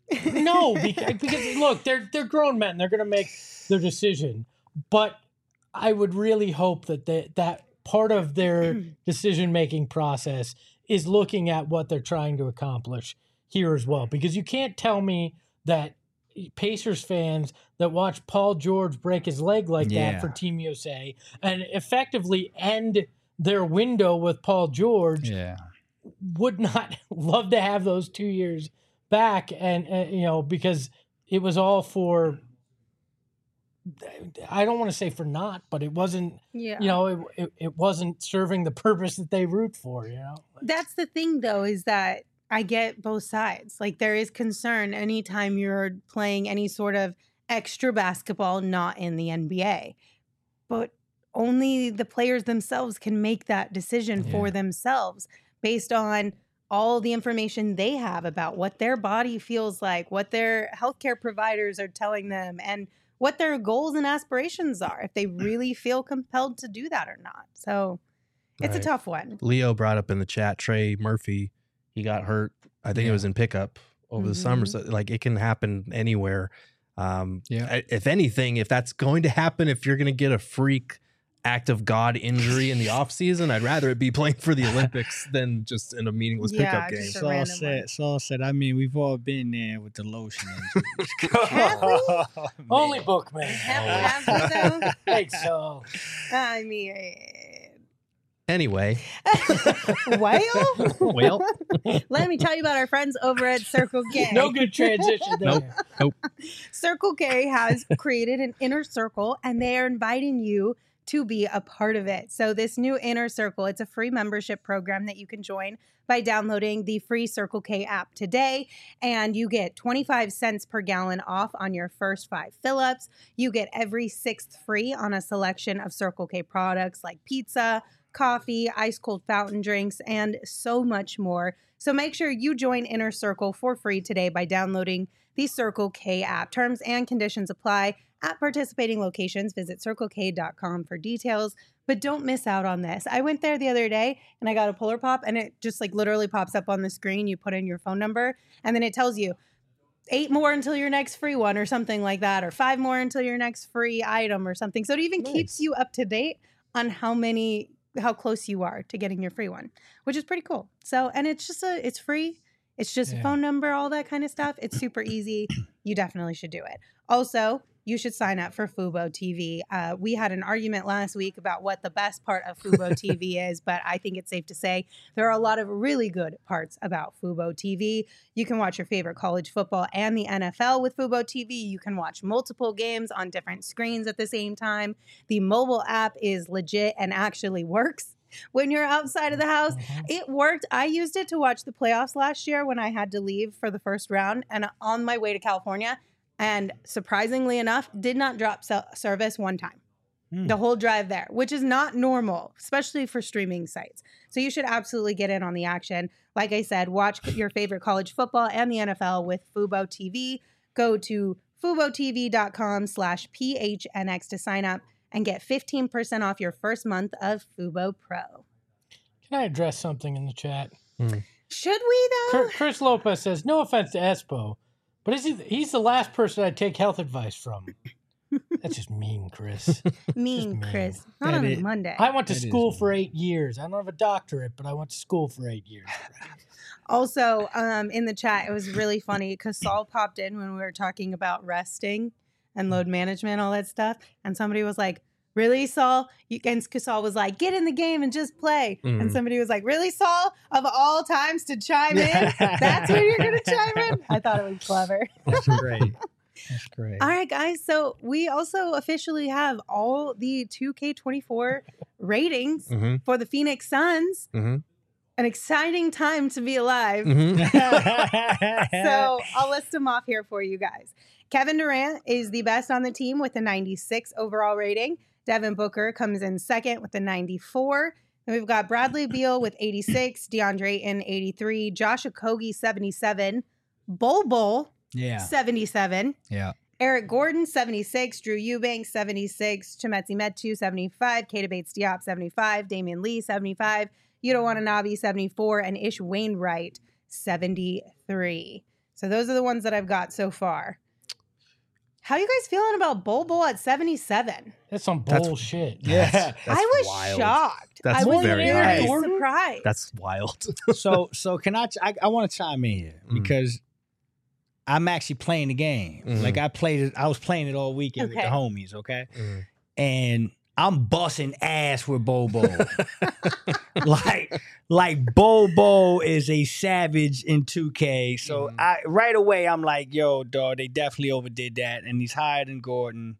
No, because look, they're grown men. They're going to make their decision. But I would really hope that part of their decision-making process is looking at what they're trying to accomplish here as well. Because you can't tell me that Pacers fans that watch Paul George break his leg like that for Team USA and effectively end their window with Paul George would not love to have those 2 years back. And because it was all for, I don't want to say for naught, but it wasn't, it wasn't serving the purpose that they root for, That's the thing, though, is that I get both sides. Like, there is concern anytime you're playing any sort of extra basketball not in the NBA. But only the players themselves can make that decision for themselves based on all the information they have about what their body feels like, what their healthcare providers are telling them, and what their goals and aspirations are, if they really feel compelled to do that or not. So it's a tough one. Leo brought up in the chat, Trey Murphy, he got hurt. I think it was in pickup over the summer. So like it can happen anywhere. If anything, if that's going to happen, if you're going to get a freak act of God injury in the off season, I'd rather it be playing for the Olympics than just in a meaningless pickup game. Saul said, I mean, we've all been there with the lotion injuries. Have we? Only Bookman. Have we, though? Thanks, Saul. I mean... Anyway. Well, let me tell you about our friends over at Circle K. No good transition there. Nope. Circle K has created an inner circle, and they are inviting you to be a part of it. So this new inner circle, it's a free membership program that you can join by downloading the free Circle K app today, and you get 25 cents per gallon off on your first 5 fill-ups. You get every 6th free on a selection of Circle K products like pizza, coffee, ice cold fountain drinks, and so much more. So make sure you join Inner Circle for free today by downloading the Circle K app. Terms and conditions apply at participating locations. Visit CircleK.com for details. But don't miss out on this. I went there the other day and I got a Polar Pop, and it just like literally pops up on the screen. You put in your phone number and then it tells you 8 more until your next free one or something like that, or 5 more until your next free item or something. So it even keeps you up to date on how close you are to getting your free one, which is pretty cool. So, and it's free. It's just a phone number, all that kind of stuff. It's super easy. You definitely should do it. Also, you should sign up for Fubo TV. We had an argument last week about what the best part of Fubo TV is, but I think it's safe to say there are a lot of really good parts about Fubo TV. You can watch your favorite college football and the NFL with Fubo TV. You can watch multiple games on different screens at the same time. The mobile app is legit and actually works when you're outside of the house. It worked. I used it to watch the playoffs last year when I had to leave for the first round, and on my way to California, and surprisingly enough, did not drop service one time. The whole drive there, which is not normal, especially for streaming sites. So you should absolutely get in on the action. Like I said, watch your favorite college football and the NFL with Fubo TV. Go to FuboTV.com/PHNX to sign up and get 15% off your first month of Fubo Pro. Can I address something in the chat? Should we, though? Chris Lopez says, no offense to Espo, but he's the last person I'd take health advice from. That's just mean, Chris. Mean, Chris. Not on a Monday. I went to school for 8 years. I don't have a doctorate, but I went to school for 8 years. Also, in the chat, it was really funny because Saul popped in when we were talking about resting and load management, all that stuff. And somebody was like, really, Saul? And Saul was like, get in the game and just play. And somebody was like, really, Saul? Of all times to chime in? That's when you're going to chime in? I thought it was clever. That's great. That's great. All right, guys. So we also officially have all the 2K24 ratings for the Phoenix Suns. An exciting time to be alive. So I'll list them off here for you guys. Kevin Durant is the best on the team with a 96 overall rating. Devin Booker comes in second with a 94. Then we've got Bradley Beal with 86, DeAndre Ayton 83, Josh Okogie 77, Bol 77. Yeah. Eric Gordon, 76. Drew Eubanks, 76. Chimezie Metu, 75. Keita Bates-Diop, 75. Damian Lee, 75. Yuta Watanabe, 74. And Ish Wainwright, 73. So those are the ones that I've got so far. How you guys feeling about Bol at 77? That's some That's- bullshit. Yeah. That's I was wild. shocked. That's I was very very wild. surprised. That's wild. So can I want to chime in here because I'm actually playing the game. Mhm. Like I was playing it all weekend with the Okay. homies, okay? Mhm. And I'm busting ass with Bobo. like Bobo is a savage in 2K. So I right away I'm like, yo, dog, they definitely overdid that. And he's higher than Gordon.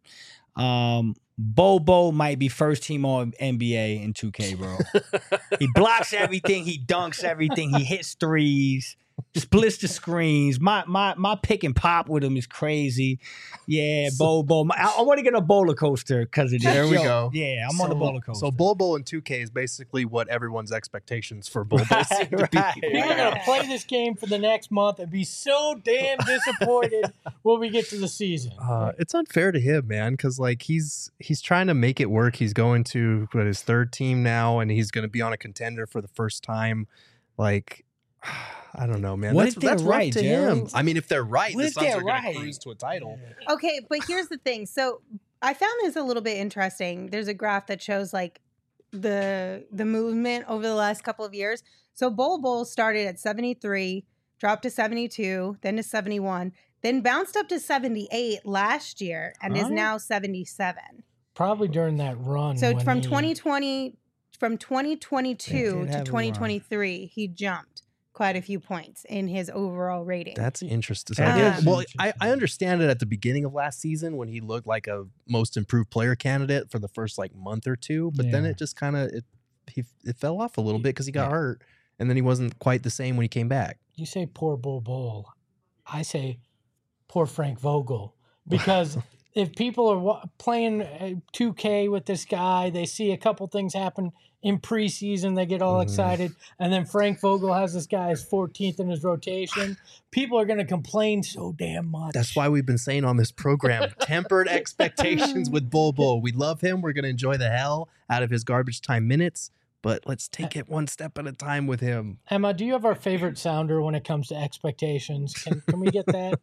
Bobo might be first team on NBA in 2K, bro. He blocks everything, he dunks everything, he hits threes, splits the screens. My pick and pop with him is crazy. Yeah, Bobo. I want to get a roller coaster because of this. There we Yo, go. Yeah, I'm on the roller coaster. So Bulbo in 2K is basically what everyone's expectations for Bulbo seem to be. Right. We're going to play this game for the next month and be so damn disappointed when we get to the season. It's unfair to him, man, because like he's trying to make it work. He's going to his third team now, and he's going to be on a contender for the first time. Like, I don't know, man. What That's if they're rough right, to Gerald? him. I mean, if they're right, What the if Suns they're are going to right? cruise to a title. Okay, but here's the thing. So I found this a little bit interesting. There's a graph that shows like the movement over the last couple of years. So Bol started at 73, dropped to 72, then to 71, then bounced up to 78 last year and is Huh? now 77. Probably during that run. So when from he- 2020 from They 2022 did to have a run. 2023, he jumped quite a few points in his overall rating. That's interesting. That is Well, interesting. I understand it at the beginning of last season when he looked like a most improved player candidate for the first like month or two, but then Yeah. it just kind of it fell off a little bit because he got Yeah. hurt, and then he wasn't quite the same when he came back. You say poor Bull. I say poor Frank Vogel. Because if people are playing 2K with this guy, they see a couple things happen in preseason, they get all Mhm. excited, and then Frank Vogel has this guy as 14th in his rotation. People are going to complain so damn much. That's why we've been saying on this program, tempered expectations with Bulbo. We love him. We're going to enjoy the hell out of his garbage time minutes, but let's take it one step at a time with him. Emma, do you have our favorite sounder when it comes to expectations? Can we get that?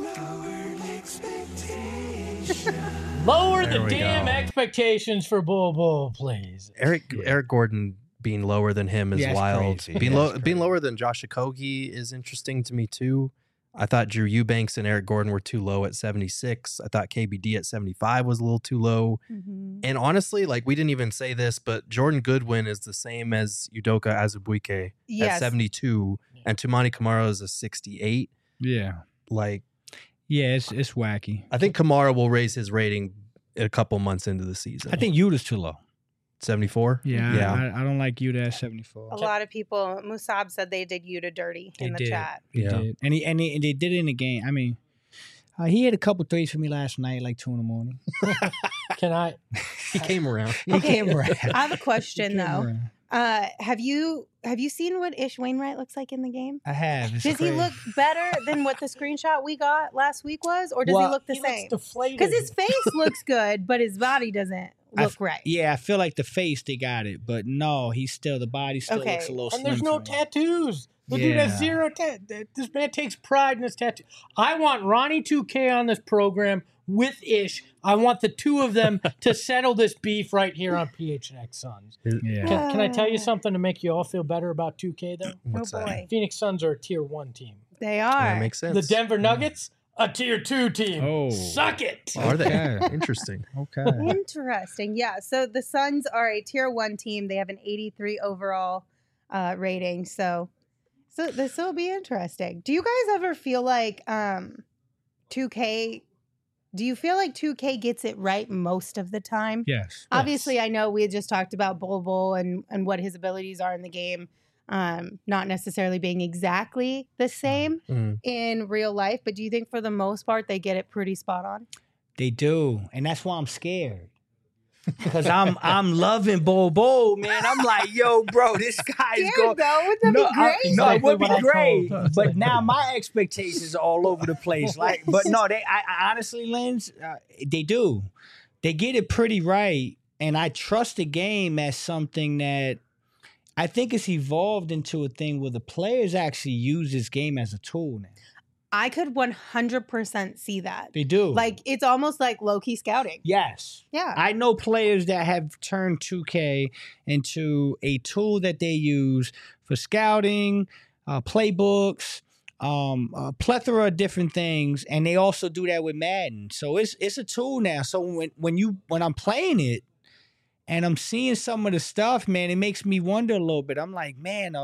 Lower There the we damn go. expectations for Bull, please. Eric Gordon being lower than him is Yeah, it's wild. crazy. Being, Yeah, low, it's being crazy. lower than Josh Okogie is interesting to me too. I thought Drew Eubanks and Eric Gordon were too low at 76. I thought KBD at 75 was a little too low. Mhm. And honestly, like we didn't even say this, but Jordan Goodwin is the same as Udoka Azubuike at Yes. 72, and Tumani Kamara is a 68. Yeah. Like Yeah, it's wacky. I think Kamara will raise his rating a couple months into the season. I think Utah's too low. 74. Yeah. I don't like Utah at 74. A lot of people, Musab said they did Yuta dirty in the did. chat. He Yeah. did. And they did it in the game. I mean, he had a couple threes for me last night, like 2 in the morning. Can I? He came around. He Okay, came around. I have a question He came though. around. Have you seen what Ish Wainwright looks like in the game? I have. It's Does he crazy. look better than what the screenshot we got last week was, or does Well, he look the He looks same? deflated. Because his face looks good, but his body doesn't look right. Yeah, I feel like the face they got it, but no, the body still Okay. looks a little and slim. there's no to me. tattoos. The dude has Yeah. zero This man takes pride in his tattoo. I want Ronnie 2K on this program with Ish. I want the two of them to settle this beef right here on PHNX Suns. Yeah. Can I tell you something to make you all feel better about 2K though? What's oh that? boy, Phoenix Suns are a tier 1 team. they Yeah, are. that makes sense. The Denver Nuggets, a tier 2 team. Oh. Suck it. Are they? Okay. Interesting. Okay. Interesting. Yeah. So the Suns are a tier 1 team. They have an 83 overall rating. So this will be interesting. Do you guys ever feel like 2K? Do you feel like 2K gets it right most of the time? Yes. Obviously, I know we had just talked about Bol and what his abilities are in the game, not necessarily being exactly the same Mm. in real life. But do you think for the most part they get it pretty spot on? They do, and that's why I'm scared. Because I'm loving Bobo, man. I'm like, yo, bro, this guy's Scared going. though, would that be great? No, it Exactly would be what I great. told. But now my expectations are all over the place. Like, but no, I honestly, Lens, they do. They get it pretty right, and I trust the game as something that I think it's evolved into a thing where the players actually use this game as a tool now. I could 100% see that. They do. Like, it's almost like low-key scouting. Yes. Yeah. I know players that have turned 2K into a tool that they use for scouting, playbooks, a plethora of different things, and they also do that with Madden. So it's a tool now. So when I'm playing it and I'm seeing some of the stuff, man, it makes me wonder a little bit. I'm like, man,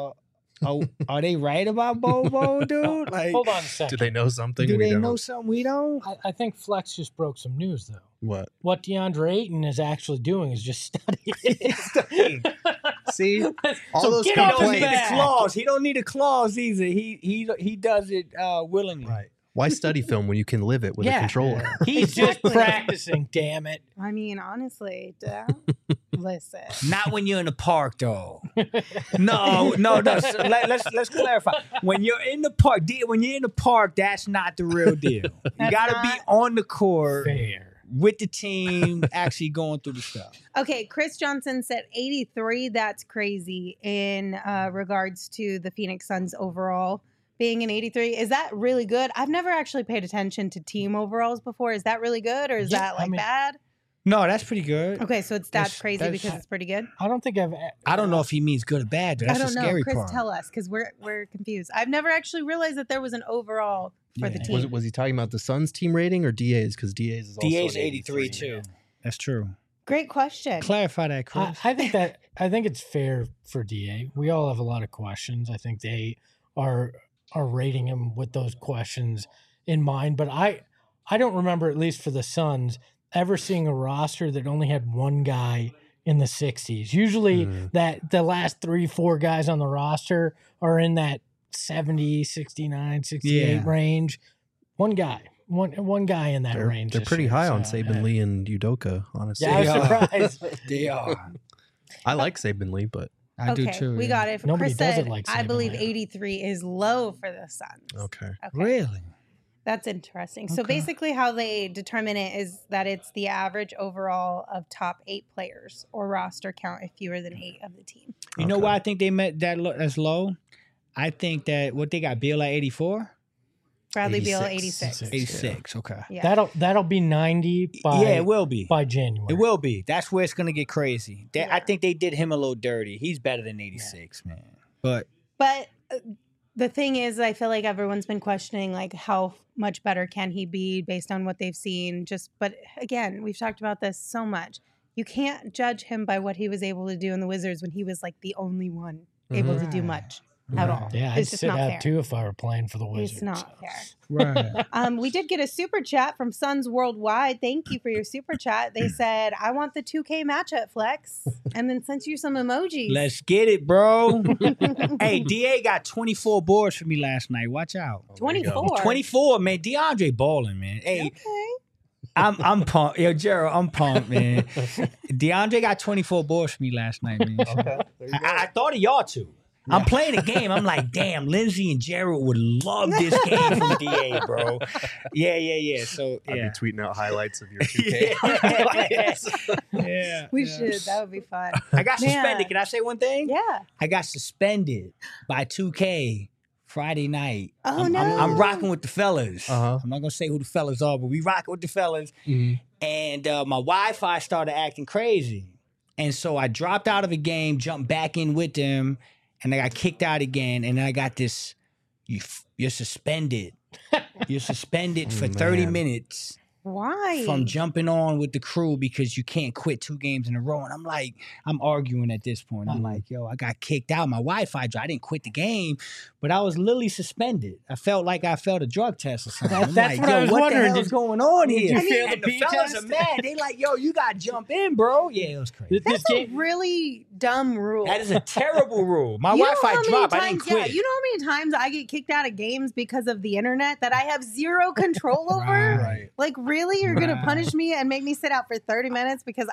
are they right about Bobo, dude? Like, Hold on a second. Do they know something? do we they don't? know something we don't? I think Flex just broke some news, though. What? What DeAndre Ayton is actually doing is just studying. See, all So those get He off his don't need a back. clause. He don't need a clause either. He does it willingly. Right. Why study film when you can live it with a Yeah. controller? He's just practicing, damn it. I mean, honestly, listen. Not when you're in the park, though. No. So let's clarify. When you're in the park, that's not the real deal. You That's got to be not on the court Fair. with the team, actually going through the stuff. Okay, Chris Johnson said 83. That's crazy in regards to the Phoenix Suns overall being an 83. Is that really good? I've never actually paid attention to team overalls before. Is that really good or is Yeah, that I like mean- bad? No, that's pretty good. Okay, so that's That's- crazy that's- because it's pretty good. I don't think I've. I don't know if he means good or bad. Though. That's I don't the know. scary Chris, part. tell us because we're confused. I've never actually realized that there was an overall for the Yeah. team. Was he talking about the Suns team rating or DA's? Because DA's is also DA's an 83 too. That's true. Great question. Clarify that, Chris. I think it's fair for DA. We all have a lot of questions. I think they are rating him with those questions in mind. But I don't remember, at least for the Suns, ever seeing a roster that only had one guy in the 60s. Usually that the last 3-4 guys on the roster are in that 70, 69, 68 Yeah. range. One guy. One guy in that range. They're this pretty year. high on So, Saban yeah. Lee and Udoka, honestly. Yeah, I was They are. surprised. They are. I like Saban Lee, but I do Okay, too. we yeah. got it. Nobody Chris does it said, like I Saban believe Lee. 83 is low for the Suns. okay. Really? That's interesting. So Okay. basically, how they determine it is that it's the average overall of top 8 players or roster count if fewer than 8 of the team. You know Okay. why I think they met that's low? I think that what they got Beal at 84? Bradley Beal 86. 86. 86. Okay. Yeah. That'll be 90 by Yeah, it will be. by January. It will be. That's where it's gonna get crazy. I think they did him a little dirty. He's better than 86, man. But But the thing is, I feel like everyone's been questioning like how much better can he be based on what they've seen. But again, we've talked about this so much. You can't judge him by what he was able to do in the Wizards when he was like the only one able to do Right. much at all. Yeah, I'd It's just sit not out fair. too if I were playing for the Wizards. It's not fair. right. We did get a super chat from Suns Worldwide. Thank you for your super chat. They said, I want the 2K matchup, Flex. And then sent you some emojis. Let's get it, bro. Hey, DA got 24 boards for me last night. Watch out. 24. 24, man. DeAndre balling, man. Hey, Okay. I'm pumped. Yo, Gerald, I'm pumped, man. DeAndre got 24 boards for me last night, man. I thought of y'all too. I'm playing a game. I'm like, damn, Lindsay and Gerald would love this game from DA, bro. Yeah. So, I'd yeah. be tweeting out highlights of your 2K. Yeah. We yeah. should. That would be fun. I got Man. suspended. Can I say one thing? Yeah. I got suspended by 2K Friday night. Oh, I'm, no. I'm rocking with the fellas. Uh-huh. I'm not going to say who the fellas are, but we rocking with the fellas. And my Wi-Fi started acting crazy. And so I dropped out of the game, jumped back in with them, and I got kicked out again. And I got this, you're suspended. You're suspended for 30 Man. minutes Why? from jumping on with the crew because you can't quit 2 games in a row. And I'm like, I'm arguing at this point. I'm like, yo, I got kicked out. My Wi-Fi dropped. I didn't quit the game, but I was literally suspended. I felt like I failed a drug test or something. I'm That's like, what I yo, was what wondering. the hell's going on Did here? you fail the And the pee fellas test? are mad. They like, yo, you got to jump in, bro. Yeah, it was crazy. That's a really dumb rule. That is a terrible rule. My You know how Wi-Fi many dropped. I times- didn't quit. Yeah, you know how many times I get kicked out of games because of the internet that I have zero control over? Right. Like, really? You're going to Right. punish me and make me sit out for 30 minutes because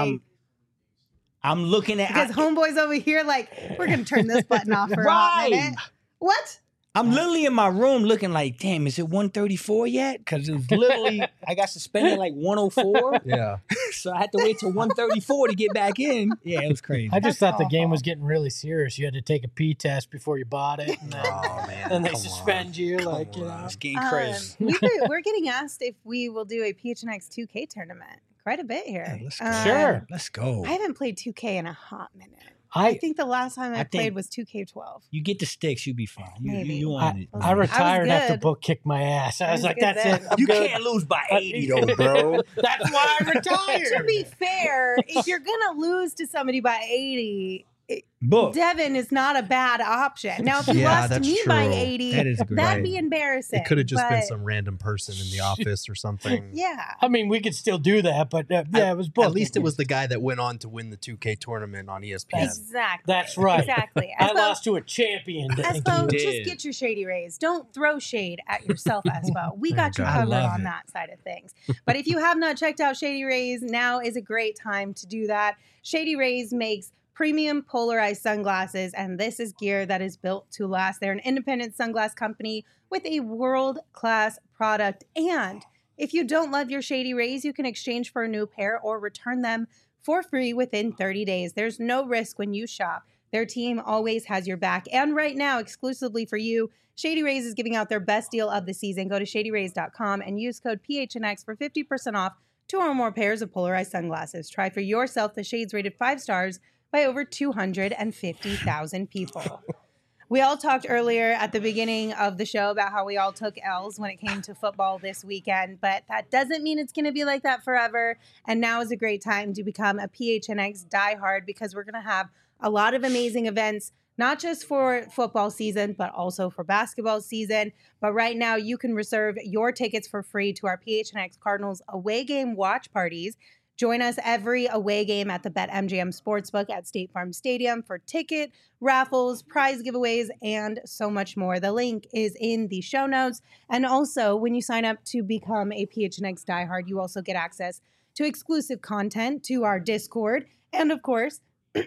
I'm looking at because homeboys over here like, we're going to turn this button off for a Right. hot minute. What? I'm literally in my room looking like, damn, is it 134 yet? Because it was literally, I got suspended like 104. Yeah. So I had to wait till 1:34 to get back in. Yeah, it was crazy. I just That's thought the game awful. was getting really serious. You had to take a P test before you bought it. And then, Oh man. and they come suspend on. you. Come Like, you know. on. It's getting crazy. We're getting asked if we will do a PHNX 2K tournament. Quite a bit here. Yeah, let's go. Sure. Let's go. I haven't played 2K in a hot minute. I I think the last time I I played think- was 2K12. You get the sticks, you be fine. You Maybe. on it. I retired after good. Book kicked my ass. I was was like, good that's then. it. I'm You good. can't lose by 80 though, bro. That's why I retired. To be fair, if you're gonna lose to somebody by 80, Book. Devin is not a bad option. Now, if you Yeah, lost to that's me by true. 80, That is great. that'd be embarrassing. It could have just been but- some random person in the office or something. Yeah. I mean, we could still do that, but yeah, it was Book. At least it was the guy that went on to win the 2K tournament on E ESPN. Exactly. That's right. Exactly. I lost to a champion. Thank Espo, you. did. just get your shady rays. Don't throw shade at yourself, Espo. We got you Okay. I covered love on it. that side of things. But if you have not checked out Shady Rays, now is a great time to do that. Shady Rays makes premium polarized sunglasses, and this is gear that is built to last. They're an independent sunglass company with a world-class product. And if you don't love your Shady Rays, you can exchange for a new pair or return them for free within 30 days. There's no risk when you shop. Their team always has your back. And right now, exclusively for you, Shady Rays is giving out their best deal of the season. Go to shadyrays.com and use code PHNX for 50% off 2 or more pairs of polarized sunglasses. Try for yourself the shades rated 5 stars by over 250,000 people. We all talked earlier at the beginning of the show about how we all took L's when it came to football this weekend, but that doesn't mean it's going to be like that forever. And now is a great time to become a PHNX diehard because we're going to have a lot of amazing events, not just for football season, but also for basketball season. But right now, you can reserve your tickets for free to our PHNX Cardinals away game watch parties. Join us every away game at the BetMGM Sportsbook at State Farm Stadium for ticket, raffles, prize giveaways, and so much more. The link is in the show notes. And also, when you sign up to become a PHNX diehard, you also get access to exclusive content, to our Discord, and of course,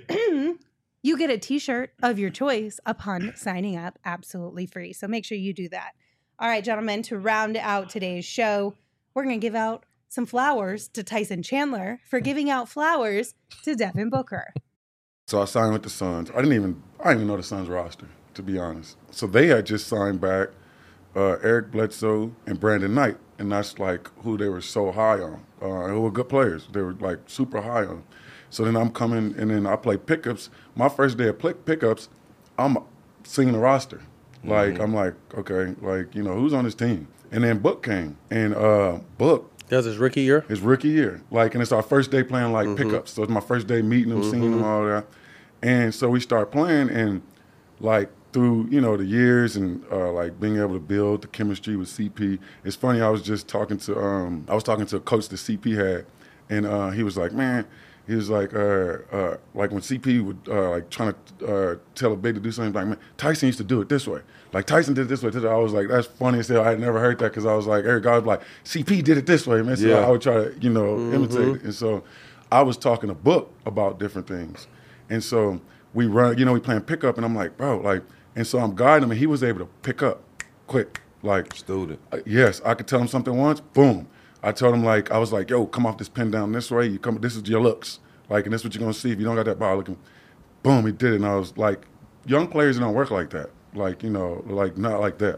you get a t-shirt of your choice upon signing up absolutely free. So make sure you do that. All right, gentlemen, to round out today's show, we're going to give out some flowers to Tyson Chandler for giving out flowers to Devin Booker. So I signed with the Suns. I didn't even know the Suns roster, to be honest. So they had just signed back Eric Bledsoe and Brandon Knight, and that's like who they were so high on. Who were good players. They were like super high on. So then I'm coming, and then I play pickups. My first day of pickups, I'm singing the roster. Like, I'm like, okay, like, you know, who's on this team? And then Book came, and Book, That was his rookie year? his rookie year. Like, and it's our first day playing like pickups. So it's my first day meeting him, seeing him, all that. And so we start playing, and like through, you know, the years and like being able to build the chemistry with CP. It's funny, I was just talking to a coach that CP had, and he was like, man, he was like when CP would like trying to tell a big to do something, like, man, Tyson used to do it this way. Like, Tyson did it this way. I was like, that's funny as hell. I had never heard that because I was like, Eric, I was like, CP did it this way, man. So Yeah. I would try to, you know, imitate it. And so I was talking to Book about different things. And so we run, you know, we playing pickup, and I'm like, bro, like, and so I'm guiding him, and he was able to pick up quick. Like, Student. yes, I could tell him something once, boom. I told him, like, I was like, yo, come off this pin down this way. You come, this is your looks. Like, and this is what you're going to see if you don't got that ball looking. Boom, he did it. And I was like, young players don't work like that. Like, you know, like, not like that.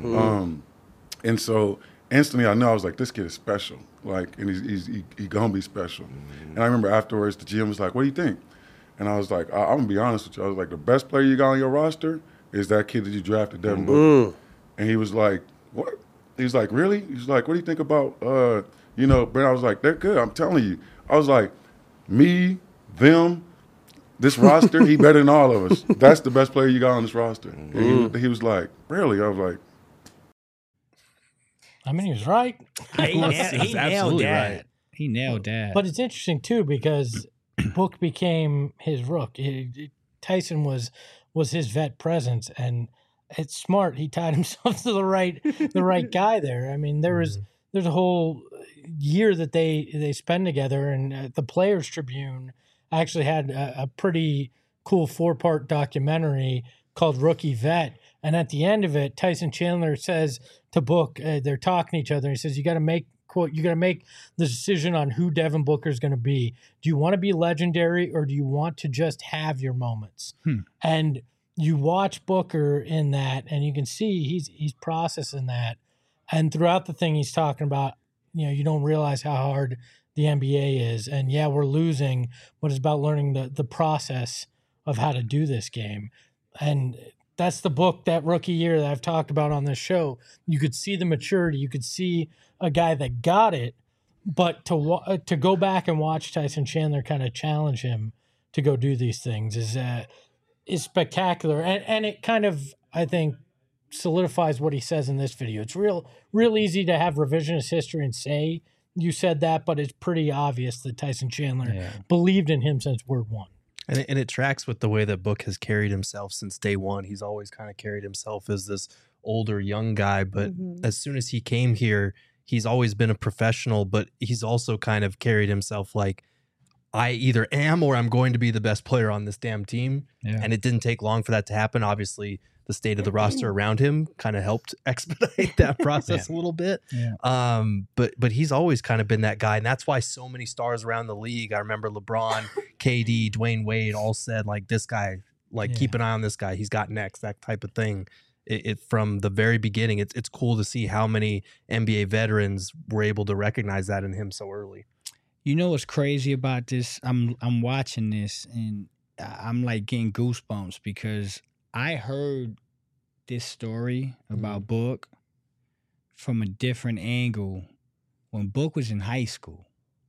And so instantly I know, I was like, this kid is special. Like, and he's going to be special. And I remember afterwards, the GM was like, what do you think? And I was like, I'm going to be honest with you. I was like, the best player you got on your roster is that kid that you drafted, Devin Booker. And he was like, what? He was like, really? He was like, what do you think about, you know, but I was like, they're good. I'm telling you. I was like, me, them, this roster, he better than all of us. That's the best player you got on this roster. And he was like, really? I was like, I mean, he was right. He nailed absolutely that. right. He nailed that. But it's interesting too because Book became his rook. Tyson was his vet presence, and it's smart. He tied himself to the right guy there. I mean, there's a whole year that they spend together, and the Players Tribune actually had a pretty cool 4-part documentary called Rookie Vet. And at the end of it, Tyson Chandler says to Book, they're talking to each other. And he says, you got to make quote, you got to make the decision on who Devin Booker is going to be. Do you want to be legendary or do you want to just have your moments? And you watch Booker in that and you can see he's processing that. And throughout the thing, he's talking about, you don't realize how hard the NBA is. And yeah, we're losing, but it's about learning the process of how to do this game. And that's the book, that rookie year that I've talked about on this show. You could see the maturity. You could see a guy that got it, but to go back and watch Tyson Chandler kind of challenge him to go do these things is spectacular. And it kind of, I think, solidifies what he says in this video. It's real easy to have revisionist history and say you said that, but it's pretty obvious that Tyson Chandler believed in him since word one. And it tracks with the way that Book has carried himself since day one. He's always kind of carried himself as this older, young guy. But as soon as he came here, he's always been a professional, but he's also kind of carried himself like, I either am or I'm going to be the best player on this damn team. Yeah. And it didn't take long for that to happen. Obviously, the state of the roster around him kind of helped expedite that process a little bit. Yeah. But he's always kind of been that guy. And that's why so many stars around the league, I remember LeBron, KD, Dwayne Wade all said, like, this guy, like, keep an eye on this guy. He's got next, that type of thing. It from the very beginning, it's cool to see how many NBA veterans were able to recognize that in him so early. You know what's crazy about this? I'm watching this and I'm like getting goosebumps because I heard this story about Book from a different angle when Book was in high school.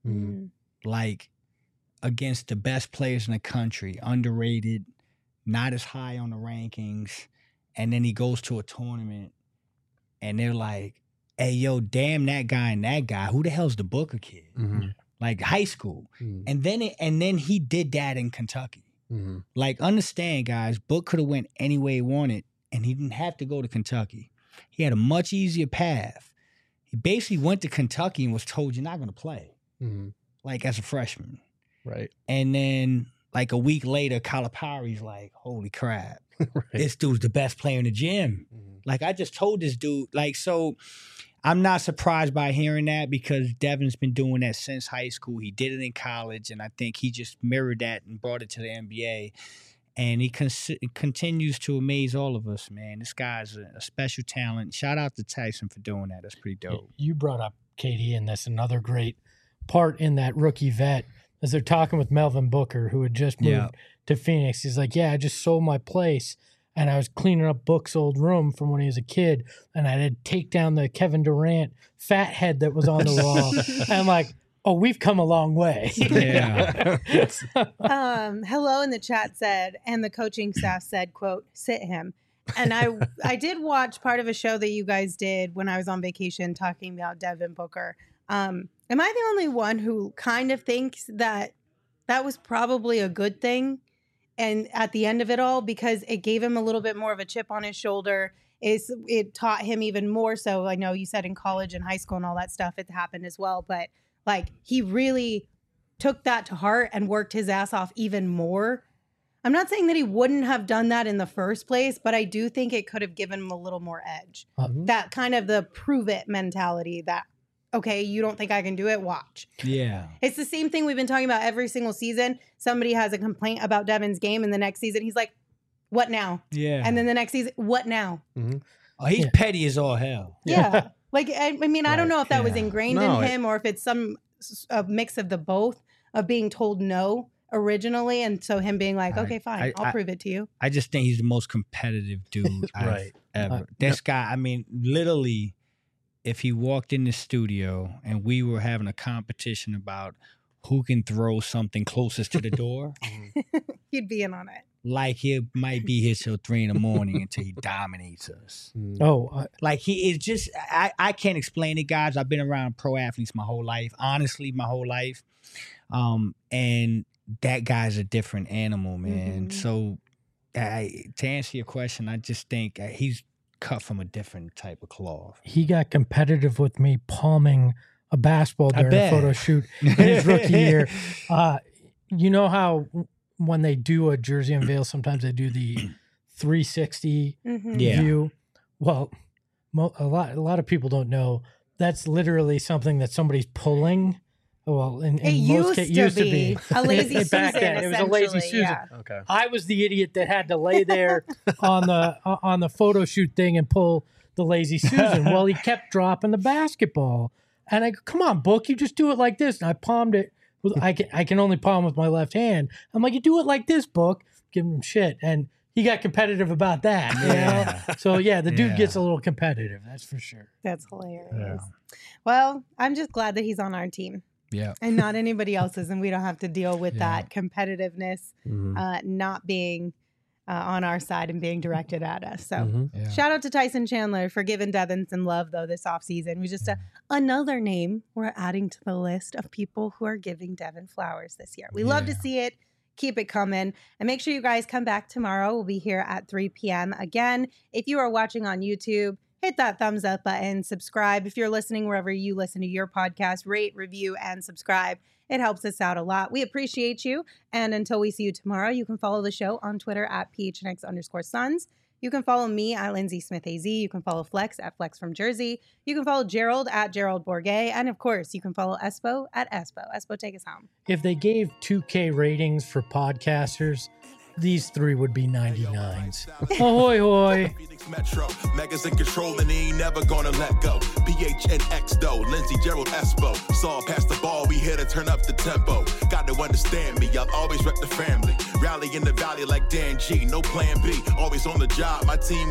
Like against the best players in the country, underrated, not as high on the rankings. And then he goes to a tournament and they're like, hey, yo, damn that guy and that guy. Who the hell's the Booker kid? Like high school. And then he did that in Kentucky. Like, understand, guys, Book could have went any way he wanted, and he didn't have to go to Kentucky. He had a much easier path. He basically went to Kentucky and was told, you're not going to play, like, as a freshman. Right. And then, like, a week later, Calipari's like, holy crap, this dude's the best player in the gym. Like, I just told this dude, like, so I'm not surprised by hearing that because Devin's been doing that since high school. He did it in college, and I think he just mirrored that and brought it to the NBA. And he continues to amaze all of us, man. This guy's a special talent. Shout out to Tyson for doing that. That's pretty dope. You brought up KD, and that's another great part in that rookie vet as they're talking with Melvin Booker, who had just moved to Phoenix. He's like, yeah, I just sold my place. And I was cleaning up Book's old room from when he was a kid, and I had to take down the Kevin Durant fat head that was on the wall. And I'm like, oh, we've come a long way. Hello in the chat said, and the coaching staff said, quote, sit him. And I did watch part of a show that you guys did when I was on vacation talking about Devin Booker. Am I the only one who kind of thinks that was probably a good thing? And at the end of it all, because it gave him a little bit more of a chip on his shoulder, it taught him even more so. I know you said in college and high school and all that stuff, it happened as well. But like he really took that to heart and worked his ass off even more. I'm not saying that he wouldn't have done that in the first place, but I do think it could have given him a little more edge. That kind of the prove it mentality that, okay, you don't think I can do it? Watch. Yeah. It's the same thing we've been talking about every single season. Somebody has a complaint about Devin's game, and the next season he's like, what now? Yeah. And then the next season, what now? Oh, he's petty as all hell. Yeah. Like, I mean, I don't know if that was ingrained in him or if it's a mix of the both of being told no originally. And so him being like, okay, fine, I'll prove it to you. I just think he's the most competitive dude I've ever. This guy, I mean, literally, if he walked in the studio and we were having a competition about who can throw something closest to the door, he'd be in on it. Like he might be here till 3 a.m. until he dominates us. Like he is just, I can't explain it, guys. I've been around pro athletes my whole life, honestly, my whole life. And that guy's a different animal, man. So to answer your question, I just think he's cut from a different type of cloth. He got competitive with me palming a basketball during a photo shoot in his rookie year. You know how when they do a jersey unveil, sometimes they do the 360 view. Well, a lot of people don't know that's literally something that somebody's pulling. Well, in It most used cases, to be a lazy back Susan, then. It was a lazy essentially, Susan. yeah. Okay. I was the idiot that had to lay there on the photo shoot thing and pull the lazy Susan. Well, he kept dropping the basketball, and I go, "Come on, Book, you just do it like this." And I palmed it. I can only palm with my left hand. I'm like, "You do it like this, Book." Give him shit, and he got competitive about that. You know? So yeah, the dude gets a little competitive. That's for sure. That's hilarious. Well, I'm just glad that he's on our team. Yeah. And not anybody else's, and we don't have to deal with that competitiveness not being on our side and being directed at us. So shout out to Tyson Chandler for giving Devin some love, though, this offseason. We just another name we're adding to the list of people who are giving Devin flowers this year. We love to see it. Keep it coming. And make sure you guys come back tomorrow. We'll be here at 3 p.m. Again, if you are watching on YouTube, hit that thumbs up button, subscribe. If you're listening wherever you listen to your podcast, rate, review, and subscribe. It helps us out a lot. We appreciate you. And until we see you tomorrow, you can follow the show on Twitter at PHNX_Suns. You can follow me at Lindsay Smith AZ. You can follow Flex at Flex from Jersey. You can follow Gerald at Gerald Bourget. And of course, you can follow Espo at Espo. Espo, take us home. If they gave 2K ratings for podcasters, these three would be 99s. Ahoy, hoy. Phoenix Metro, Megas in control and he ain't never gonna let go. PHNX though, Lindsay, Gerald, Espo. Saw past the ball, we here to turn up the tempo. Got to understand me, I'll always rep the family. Rally in the valley like Dan G, no plan B. Always on the job, my team